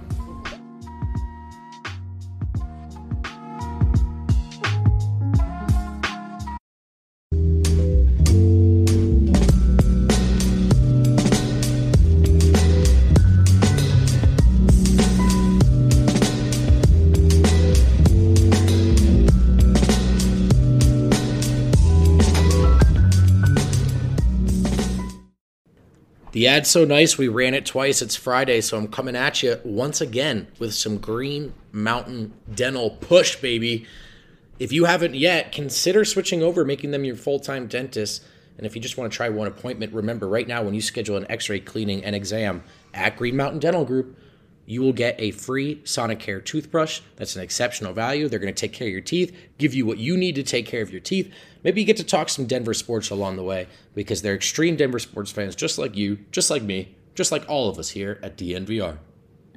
A: The ad's so nice, we ran it twice. It's Friday, so I'm coming at you once again with some Green Mountain Dental Push, baby. If you haven't yet, consider switching over, making them your full-time dentist. And if you just want to try one appointment, remember, right now when you schedule an x-ray cleaning and exam at Green Mountain Dental Group, you will get a free Sonicare toothbrush. That's an exceptional value. They're going to take care of your teeth, give you what you need to take care of your teeth. Maybe you get to talk some Denver sports along the way because they're extreme Denver sports fans just like you, just like me, just like all of us here at DNVR.